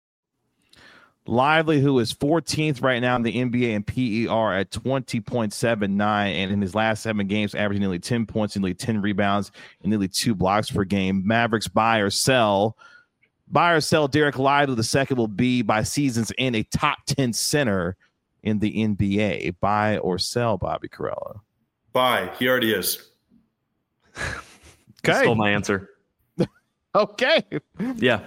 Lively, who is 14th right now in the NBA in PER at 20.79, and in his last 7 games, averaging nearly 10 points, nearly 10 rebounds, and nearly 2 blocks per game. Mavericks buy or sell. Buy or sell Derek Lively II will be, by season's end, a top 10 center in the NBA. Buy or sell, Bobby Karalla? Buy. He already is. Okay. Stole my answer. Okay. Yeah.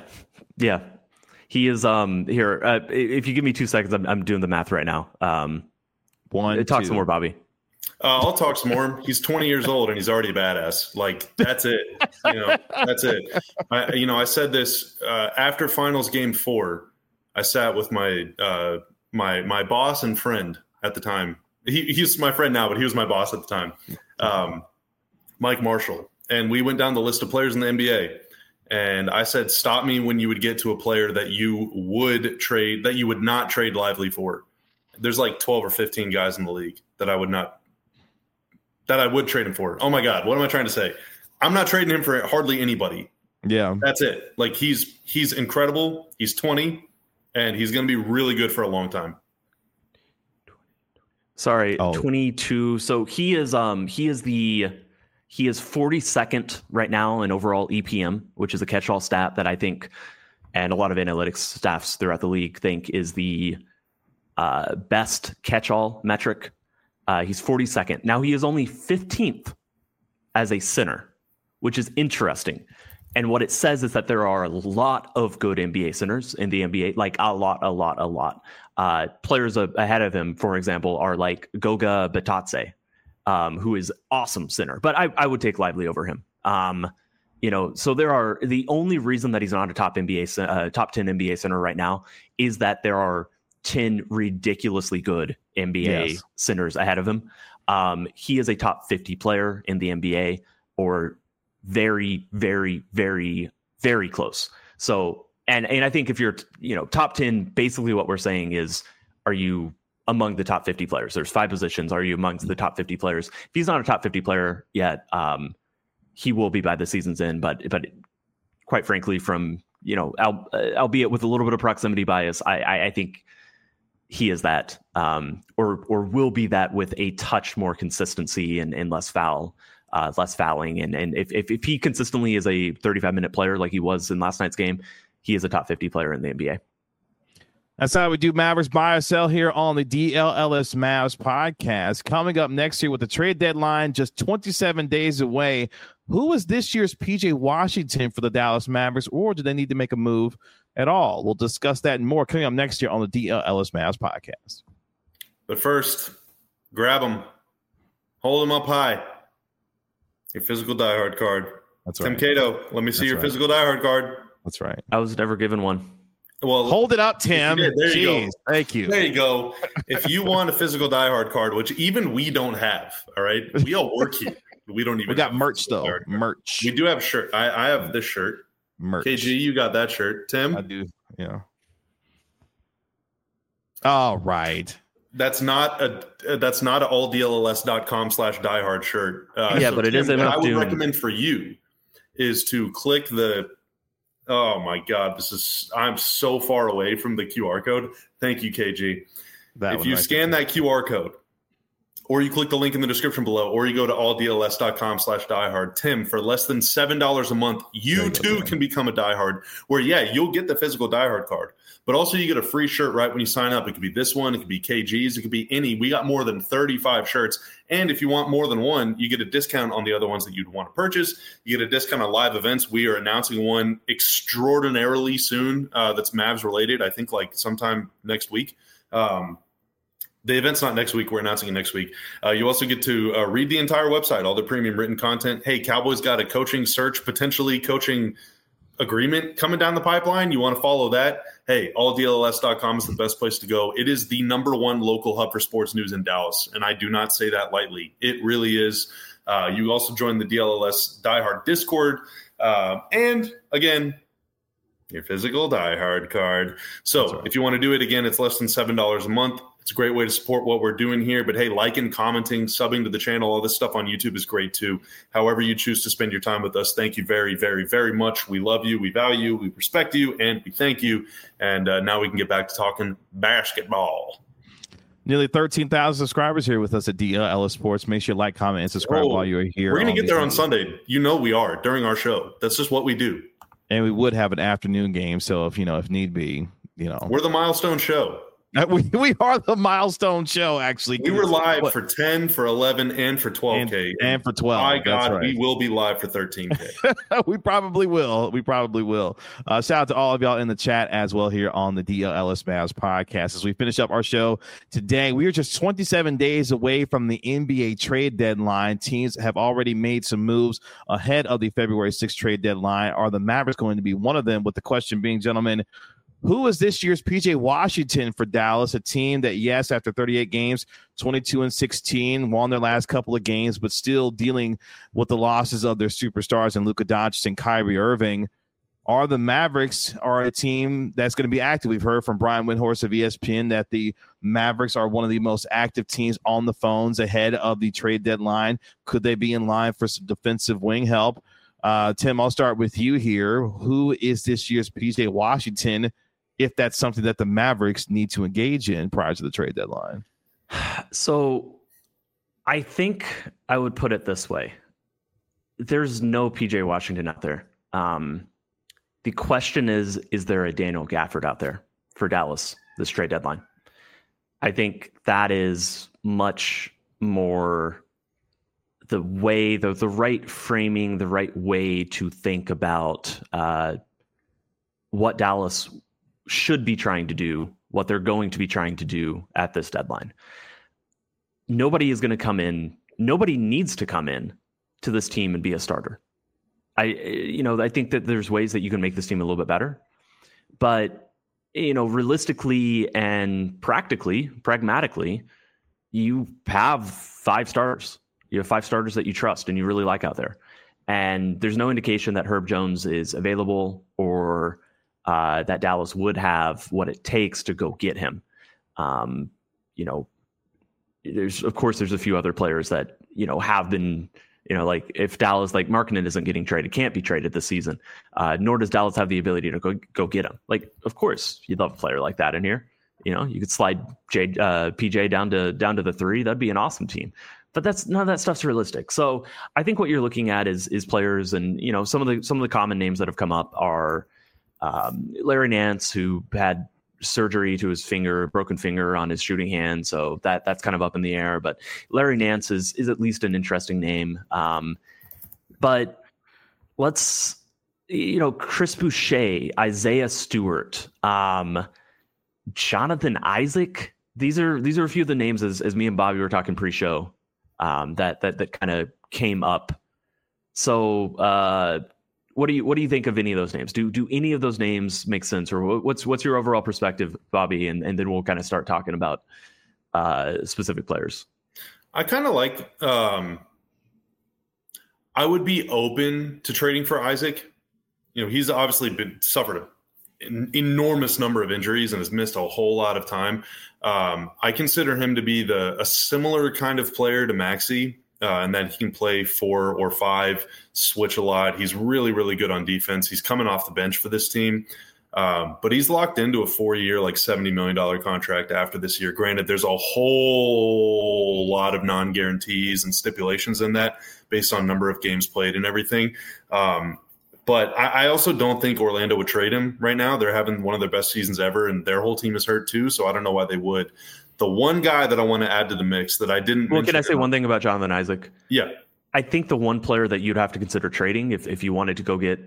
He is here. If you give me 2 seconds, I'm doing the math right now. Talk some more, Bobby. I'll talk some more. He's 20 years old and he's already a badass. Like, that's it. That's it. I said this after finals game 4. I sat with my my boss and friend at the time. He's my friend now, but he was my boss at the time, Mike Marshall. and we went down the list of players in the NBA. And I said, stop me when you would get to a player that you would trade, that you would not trade Lively for. There's like 12 or 15 guys in the league that I would trade him for. Oh my God, what am I trying to say? I'm not trading him for hardly anybody. Yeah. That's it. Like he's incredible. He's 20 and he's going to be really good for a long time. Sorry, 22. So he is 42nd right now in overall EPM, which is a catch-all stat that I think, and a lot of analytics staffs throughout the league think is the best catch-all metric. He's 42nd. Now he is only 15th as a center, which is interesting. And what it says is that there are a lot of good NBA centers in the NBA, like a lot. Players ahead of him, for example, are like Goga Bitadze, who is awesome center, but I would take Lively over him. So the only reason that he's not a top 10 NBA center right now is that there are 10 ridiculously good NBA centers ahead of him. He is a top 50 player in the NBA, or very, very, very, very close. So, and I think if you're, top 10, basically what we're saying is, are you among the top 50 players? There's 5 positions. Are you amongst the top 50 players? If he's not a top 50 player yet, he will be by the season's end. But quite frankly, from, albeit with a little bit of proximity bias, I think he is that, or will be that with a touch more consistency and less fouling. And if he consistently is a 35-minute player like he was in last night's game, he is a top 50 player in the NBA. That's how we do Mavericks buy or sell here on the DLLS Mavs podcast. Coming up next year with the trade deadline just 27 days away, who is this year's PJ Washington for the Dallas Mavericks, or do they need to make a move at all? We'll discuss that and more coming up next year on the DLLS Mavs podcast. But first, grab them, hold them up high. Your physical diehard card. That's right. Tim Cato, let me see your physical diehard card. That's right. I was never given one. Well, hold it up, Tim. There you go. Thank you. There you go. If you want a physical diehard card, which even we don't have, all right, we all work here. We don't even. We got merch though. Merch. We do have a shirt. I have this shirt. Merch. KG, you got that shirt. Tim, I do. Yeah. All right. That's not a alldlls.com/diehard shirt. But it is Tim, enough. What I would recommend for you is to click the. Oh my God, I'm so far away from the QR code. Thank you, KG. If you scan that QR code, or you click the link in the description below, or you go to alldlls.com/diehard, Tim, for less than $7 a month, you too can become a diehard, where, you'll get the physical diehard card, but also you get a free shirt right when you sign up. It could be this one. It could be KG's. It could be any. We got more than 35 shirts. And if you want more than one, you get a discount on the other ones that you'd want to purchase. You get a discount on live events. We are announcing one extraordinarily soon that's Mavs related, I think like sometime next week. The event's not next week. We're announcing it next week. You also get to read the entire website, all the premium written content. Hey, Cowboys got a coaching search, potentially coaching agreement coming down the pipeline. You want to follow that? Hey, alldlls.com is the best place to go. It is the number one local hub for sports news in Dallas, and I do not say that lightly. It really is. You also join the DLLS Diehard Discord. And, again, your physical diehard card. So if you want to do it, again, it's less than $7 a month. It's a great way to support what we're doing here. But, hey, liking, commenting, subbing to the channel, all this stuff on YouTube is great too. However you choose to spend your time with us, thank you very, very, very much. We love you. We value you. We respect you. And we thank you. And now we can get back to talking basketball. Nearly 13,000 subscribers here with us at DLLS Sports. Make sure you like, comment, and subscribe while you're here. We're going to get there on Sunday. You know we are during our show. That's just what we do. And we would have an afternoon game. So if need be, we're the milestone show. We are the milestone show, actually. We were live for 10, for 11, and for 12K. And for 12. My God, we will be live for 13K. We probably will. Shout out to all of y'all in the chat as well here on the DLLS Mavs podcast. As we finish up our show today, we are just 27 days away from the NBA trade deadline. Teams have already made some moves ahead of the February 6th trade deadline. Are the Mavericks going to be one of them? With the question being, gentlemen, Who is this year's PJ Washington for Dallas? A team that, yes, after 38 games, 22-16, won their last couple of games, but still dealing with the losses of their superstars and Luka Doncic and Kyrie Irving. Are the Mavericks a team that's going to be active? We've heard from Brian Windhorst of ESPN that the Mavericks are one of the most active teams on the phones ahead of the trade deadline. Could they be in line for some defensive wing help? Tim, I'll start with you here. Who is this year's PJ Washington, if that's something that the Mavericks need to engage in prior to the trade deadline? So I think I would put it this way. There's no PJ Washington out there. The question is there a Daniel Gafford out there for Dallas this trade deadline? I think that is much more the way, the right framing, the right way to think about what Dallas should be trying to do, what they're going to be trying to do at this deadline. Nobody is going to come in. Nobody needs to come in to this team and be a starter. I think that there's ways that you can make this team a little bit better, but realistically and pragmatically, you have 5 starters. You have 5 starters that you trust and you really like out there. And there's no indication that Herb Jones is available or that Dallas would have what it takes to go get him. There's a few other players that, have been, like if Dallas, like Markkanen isn't getting traded, can't be traded this season, nor does Dallas have the ability to go get him. Like, of course, you'd love a player like that in here. You could slide PJ down to the 3. That'd be an awesome team. But none of that stuff's realistic. So I think what you're looking at is players, and some of the common names that have come up are Larry Nance, who had surgery to his broken finger on his shooting hand, so that's kind of up in the air. But Larry Nance is at least an interesting name. But let's Chris Boucher, Isaiah Stewart, Jonathan Isaac. These are a few of the names as me and Bobby were talking pre-show that kind of came up. So what do you think of any of those names? Do any of those names make sense, or what's your overall perspective, Bobby? And then we'll kind of start talking about specific players. I kind of like. I would be open to trading for Isaac. He's obviously suffered an enormous number of injuries and has missed a whole lot of time. I consider him to be a similar kind of player to Maxey. And that he can play 4 or 5, switch a lot. He's really, really good on defense. He's coming off the bench for this team. But he's locked into a 4-year, like $70 million contract after this year. Granted, there's a whole lot of non-guarantees and stipulations in that based on number of games played and everything. But I also don't think Orlando would trade him right now. They're having one of their best seasons ever, and their whole team is hurt too, so I don't know why they would. The one guy that I want to add to the mix that I didn't mention. Can I say one thing about Jonathan Isaac? Yeah. I think the one player that you'd have to consider trading if you wanted to go get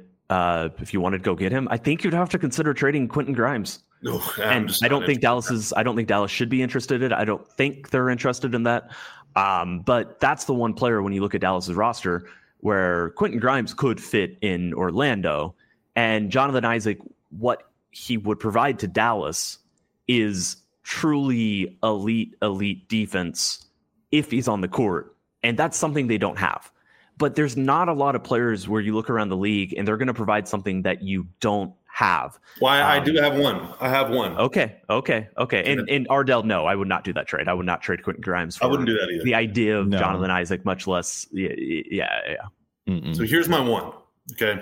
him, I think you'd have to consider trading Quentin Grimes. I don't think Dallas should be interested in it. I don't think they're interested in that. But that's the one player when you look at Dallas's roster where Quentin Grimes could fit in Orlando, and Jonathan Isaac, what he would provide to Dallas is truly elite defense if he's on the court. And that's something they don't have. But there's not a lot of players where you look around the league and they're going to provide something that you don't have. Well, I do have one. I have one. Okay. And Ardell, no, I would not do that trade. I would not trade Quentin Grimes for I wouldn't do that either. The idea of Jonathan Isaac, much less. Yeah. So here's my one. Okay.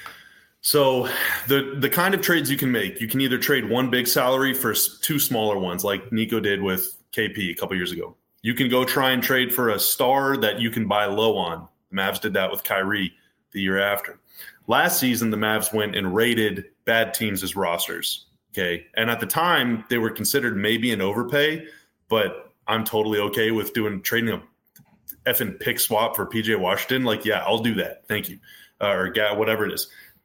So the kind of trades you can make, you can either trade one big salary for 2 smaller ones like Nico did with KP a couple years ago. You can go try and trade for a star that you can buy low on. The Mavs did that with Kyrie the year after. Last season, the Mavs went and raided bad teams as rosters. Okay. And at the time, they were considered maybe an overpay, but I'm totally okay with trading a effing pick swap for PJ Washington. Like, yeah, I'll do that. Thank you. Or whatever it is.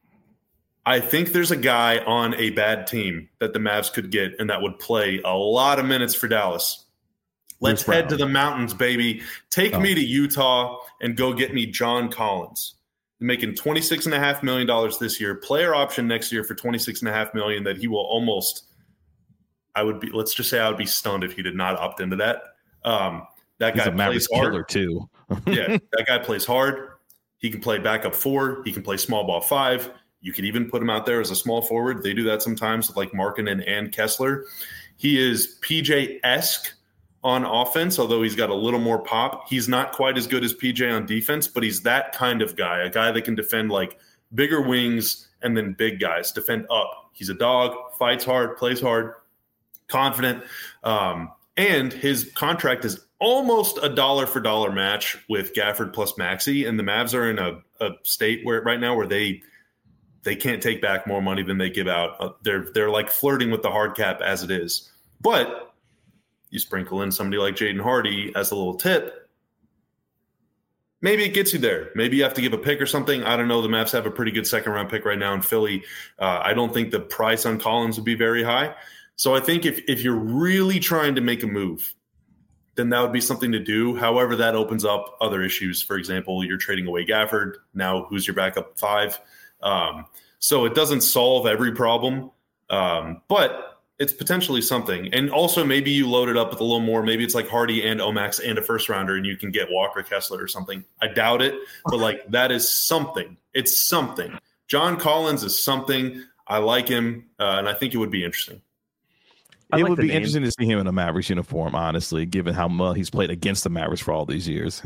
I think there's a guy on a bad team that the Mavs could get and that would play a lot of minutes for Dallas. Let's head to the mountains, baby. Take me to Utah and go get me John Collins. making $26.5 million this year, player option next year for $26.5 million that he will almost – let's just say I would be stunned if he did not opt into that. That guy plays hard. Killer too. Yeah, that guy plays hard. He can play backup 4. He can play small ball 5. You could even put him out there as a small forward. They do that sometimes with like Markkanen and Kessler. He is PJ-esque on offense, although he's got a little more pop. He's not quite as good as PJ on defense, but he's that kind of guy, a guy that can defend like bigger wings and then big guys, defend up. He's a dog, fights hard, plays hard, confident. And his contract is almost a dollar for dollar match with Gafford plus Maxey. And the Mavs are in a state right now where they can't take back more money than they give out. They're like flirting with the hard cap as it is. But you sprinkle in somebody like Jaden Hardy as a little tip, maybe it gets you there. Maybe you have to give a pick or something. I don't know. The Mavs have a pretty good second-round pick right now in Philly. I don't think the price on Collins would be very high. So I think if you're really trying to make a move, then that would be something to do. However, that opens up other issues. For example, you're trading away Gafford. Now who's your backup 5? So it doesn't solve every problem, but it's potentially something. And also maybe you load it up with a little more. Maybe it's like Hardy and Omax and a first rounder and you can get Walker Kessler or something. I doubt it, but like that is something. It's something. John Collins is something. I like him, and I think it would be interesting. It would be interesting to see him in a Mavericks uniform, honestly, given how well he's played against the Mavericks for all these years.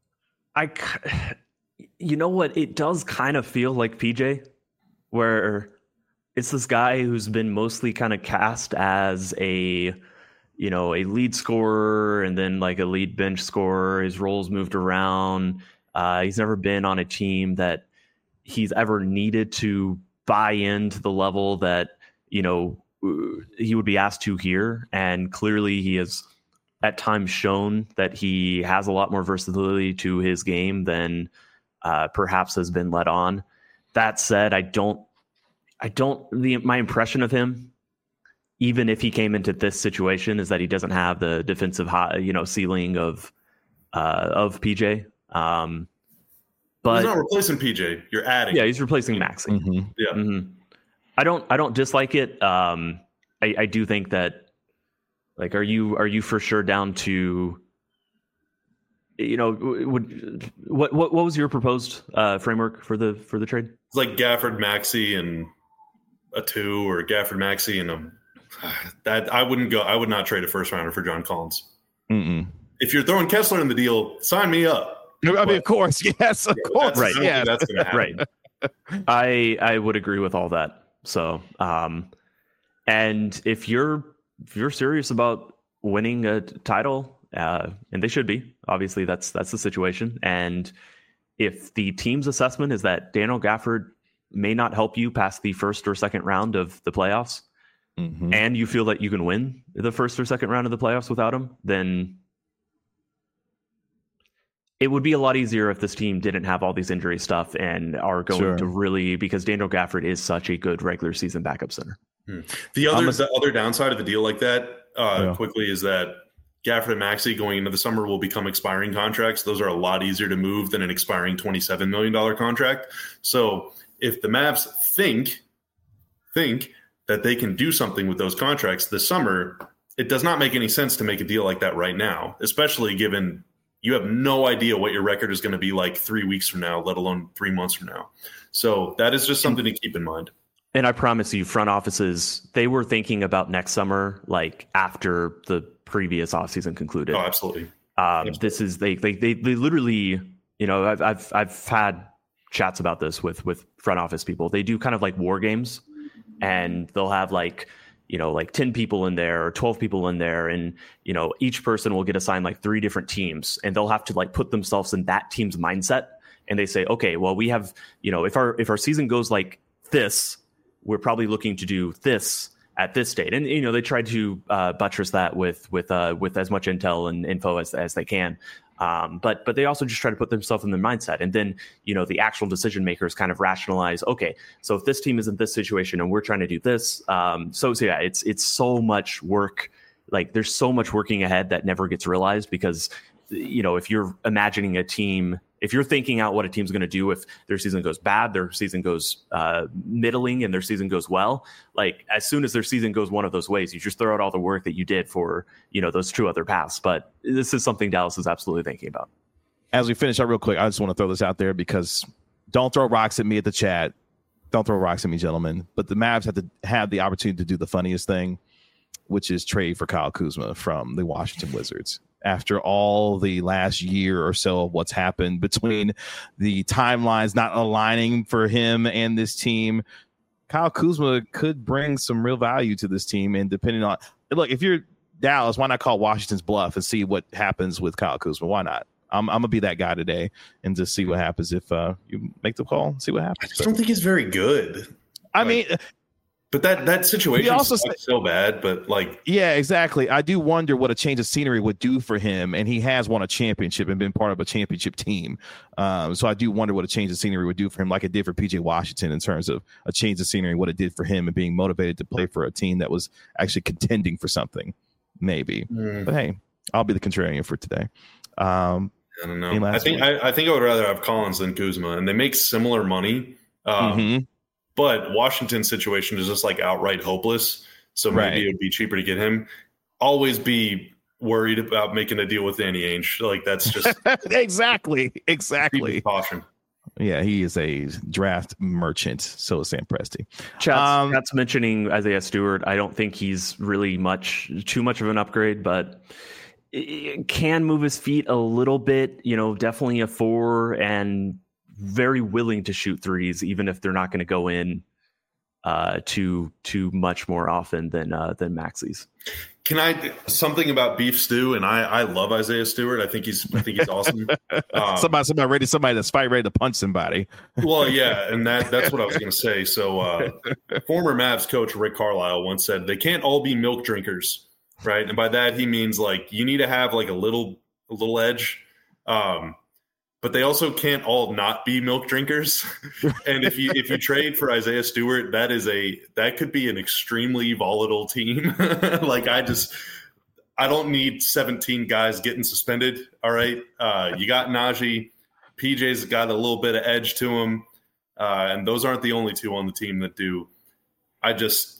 You know what? It does kind of feel like PJ, where it's this guy who's been mostly kind of cast as a lead scorer and then like a lead bench scorer. His roles moved around. He's never been on a team that he's ever needed to buy into the level that, he would be asked to here. And clearly he has at times shown that he has a lot more versatility to his game than perhaps has been let on. That said, my impression of him, even if he came into this situation, is that he doesn't have the defensive ceiling of PJ. But he's not replacing PJ. You're adding. Yeah, he's replacing Maxey. Mm-hmm. Yeah. Mm-hmm. I don't dislike it. I do think that, like, are you for sure down to, what was your proposed framework for the trade? It's like Gafford, Maxey, and a 2, or Gafford, Maxey, and that I would not trade a first rounder for John Collins. Mm-mm. If you're throwing Kessler in the deal, sign me up. I mean, of course, yes, of course, right? Yeah, that's going to happen. Right. I would agree with all that. So, and if you're serious about winning a title, and they should be, obviously that's the situation. And if the team's assessment is that Daniel Gafford may not help you past the first or second round of the playoffs, mm-hmm. and you feel that you can win the first or second round of the playoffs without him, then it would be a lot easier if this team didn't have all these injury stuff and are going to really, because Daniel Gafford is such a good regular season backup center. The other downside of a deal like that quickly is that Gafford and Maxey going into the summer will become expiring contracts. Those are a lot easier to move than an expiring $27 million contract. So if the Mavs think that they can do something with those contracts this summer, it does not make any sense to make a deal like that right now, especially given you have no idea what your record is going to be like 3 weeks from now, let alone 3 months from now. So that is just something to keep in mind. And I promise you, front offices, they were thinking about next summer, like after the previous offseason concluded. Oh, absolutely. This is they literally, I've had chats about this with front office people. They do kind of like war games, and they'll have like 10 people in there or 12 people in there. And, each person will get assigned like 3 different teams, and they'll have to like put themselves in that team's mindset. And they say, okay, well, we have, if our season goes like this, we're probably looking to do this at this date. And, they try to buttress that with as much intel and info as they can. But they also just try to put themselves in their mindset. And then, the actual decision makers kind of rationalize, okay, so if this team is in this situation and we're trying to do this. So yeah, it's so much work. Like there's so much working ahead that never gets realized because, if you're imagining a team if you're thinking out what a team's going to do if their season goes bad, their season goes middling, and their season goes well, like as soon as their season goes one of those ways, you just throw out all the work that you did for, those 2 other paths. But this is something Dallas is absolutely thinking about. As we finish up real quick, I just want to throw this out there because don't throw rocks at me at the chat. Don't throw rocks at me, gentlemen. But the Mavs have to have the opportunity to do the funniest thing, which is trade for Kyle Kuzma from the Washington Wizards. After all the last year or so of what's happened between the timelines not aligning for him and this team, Kyle Kuzma could bring some real value to this team. And depending on, look, if you're Dallas, why not call Washington's bluff and see what happens with Kyle Kuzma? Why not? I'm going to be that guy today and just see what happens if you make the call, see what happens. I just don't think he's very good. I mean, but that situation is so bad, but yeah, exactly. I do wonder what a change of scenery would do for him. And he has won a championship and been part of a championship team. So I do wonder what a change of scenery would do for him, like it did for PJ Washington in terms of a change of scenery, what it did for him and being motivated to play for a team that was actually contending for something, maybe. But hey, I'll be the contrarian for today. I don't know. I think I would rather have Collins than Kuzma, and they make similar money. But Washington's situation is just outright hopeless. So maybe it would be cheaper to get him. Always be worried about making a deal with Danny Ainge. That's just exactly. Caution. Yeah, he is a draft merchant. So is Sam Presti. Chat's mentioning Isaiah Stewart. I don't think he's really too much of an upgrade, but it can move his feet a little bit, definitely a 4 and very willing to shoot threes, even if they're not going to go in too much more often than Maxi's. Can I something about beef stew? And I love Isaiah Stewart. I think he's awesome. somebody that's ready to punch somebody. Well, yeah, and that's what I was going to say. So former Mavs coach Rick Carlisle once said they can't all be milk drinkers. Right. And by that, he means you need to have a little edge. But they also can't all not be milk drinkers. And if you trade for Isaiah Stewart, that could be an extremely volatile team. I don't need 17 guys getting suspended. All right. You got Najee. PJ's got a little bit of edge to him. And those aren't the only 2 on the team that do. I just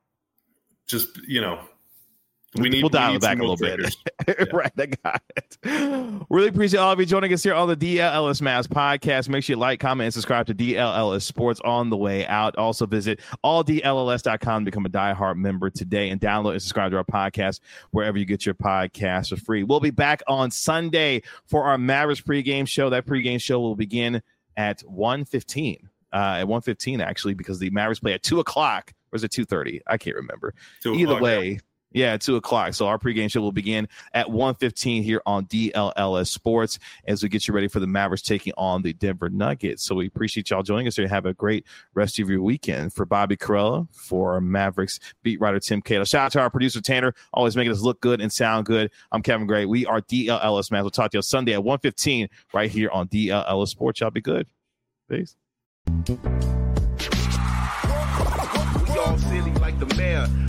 We'll dial it back a little bit. Yeah. Right, I got it. Really appreciate all of you joining us here on the DLLS Mavs podcast. Make sure you like, comment, and subscribe to DLLS Sports on the way out. Also visit alldlls.com to become a diehard member today and download and subscribe to our podcast wherever you get your podcasts for free. We'll be back on Sunday for our Mavericks pregame show. That pregame show will begin at 1:15. At 1:15, actually, because the Mavericks play at 2 o'clock. Or is it 2:30? I can't remember. Either way. Yeah. Yeah, at 2 o'clock. So our pregame show will begin at 1:15 here on DLLS Sports as we get you ready for the Mavericks taking on the Denver Nuggets. So we appreciate y'all joining us here. Have a great rest of your weekend. For Bobby Karalla, for Mavericks beat writer Tim Cato. Shout out to our producer Tanner, always making us look good and sound good. I'm Kevin Gray. We are DLLS Mavs. We'll talk to you on Sunday at 1:15 right here on DLLS Sports. Y'all be good. Peace. We all silly like the mayor.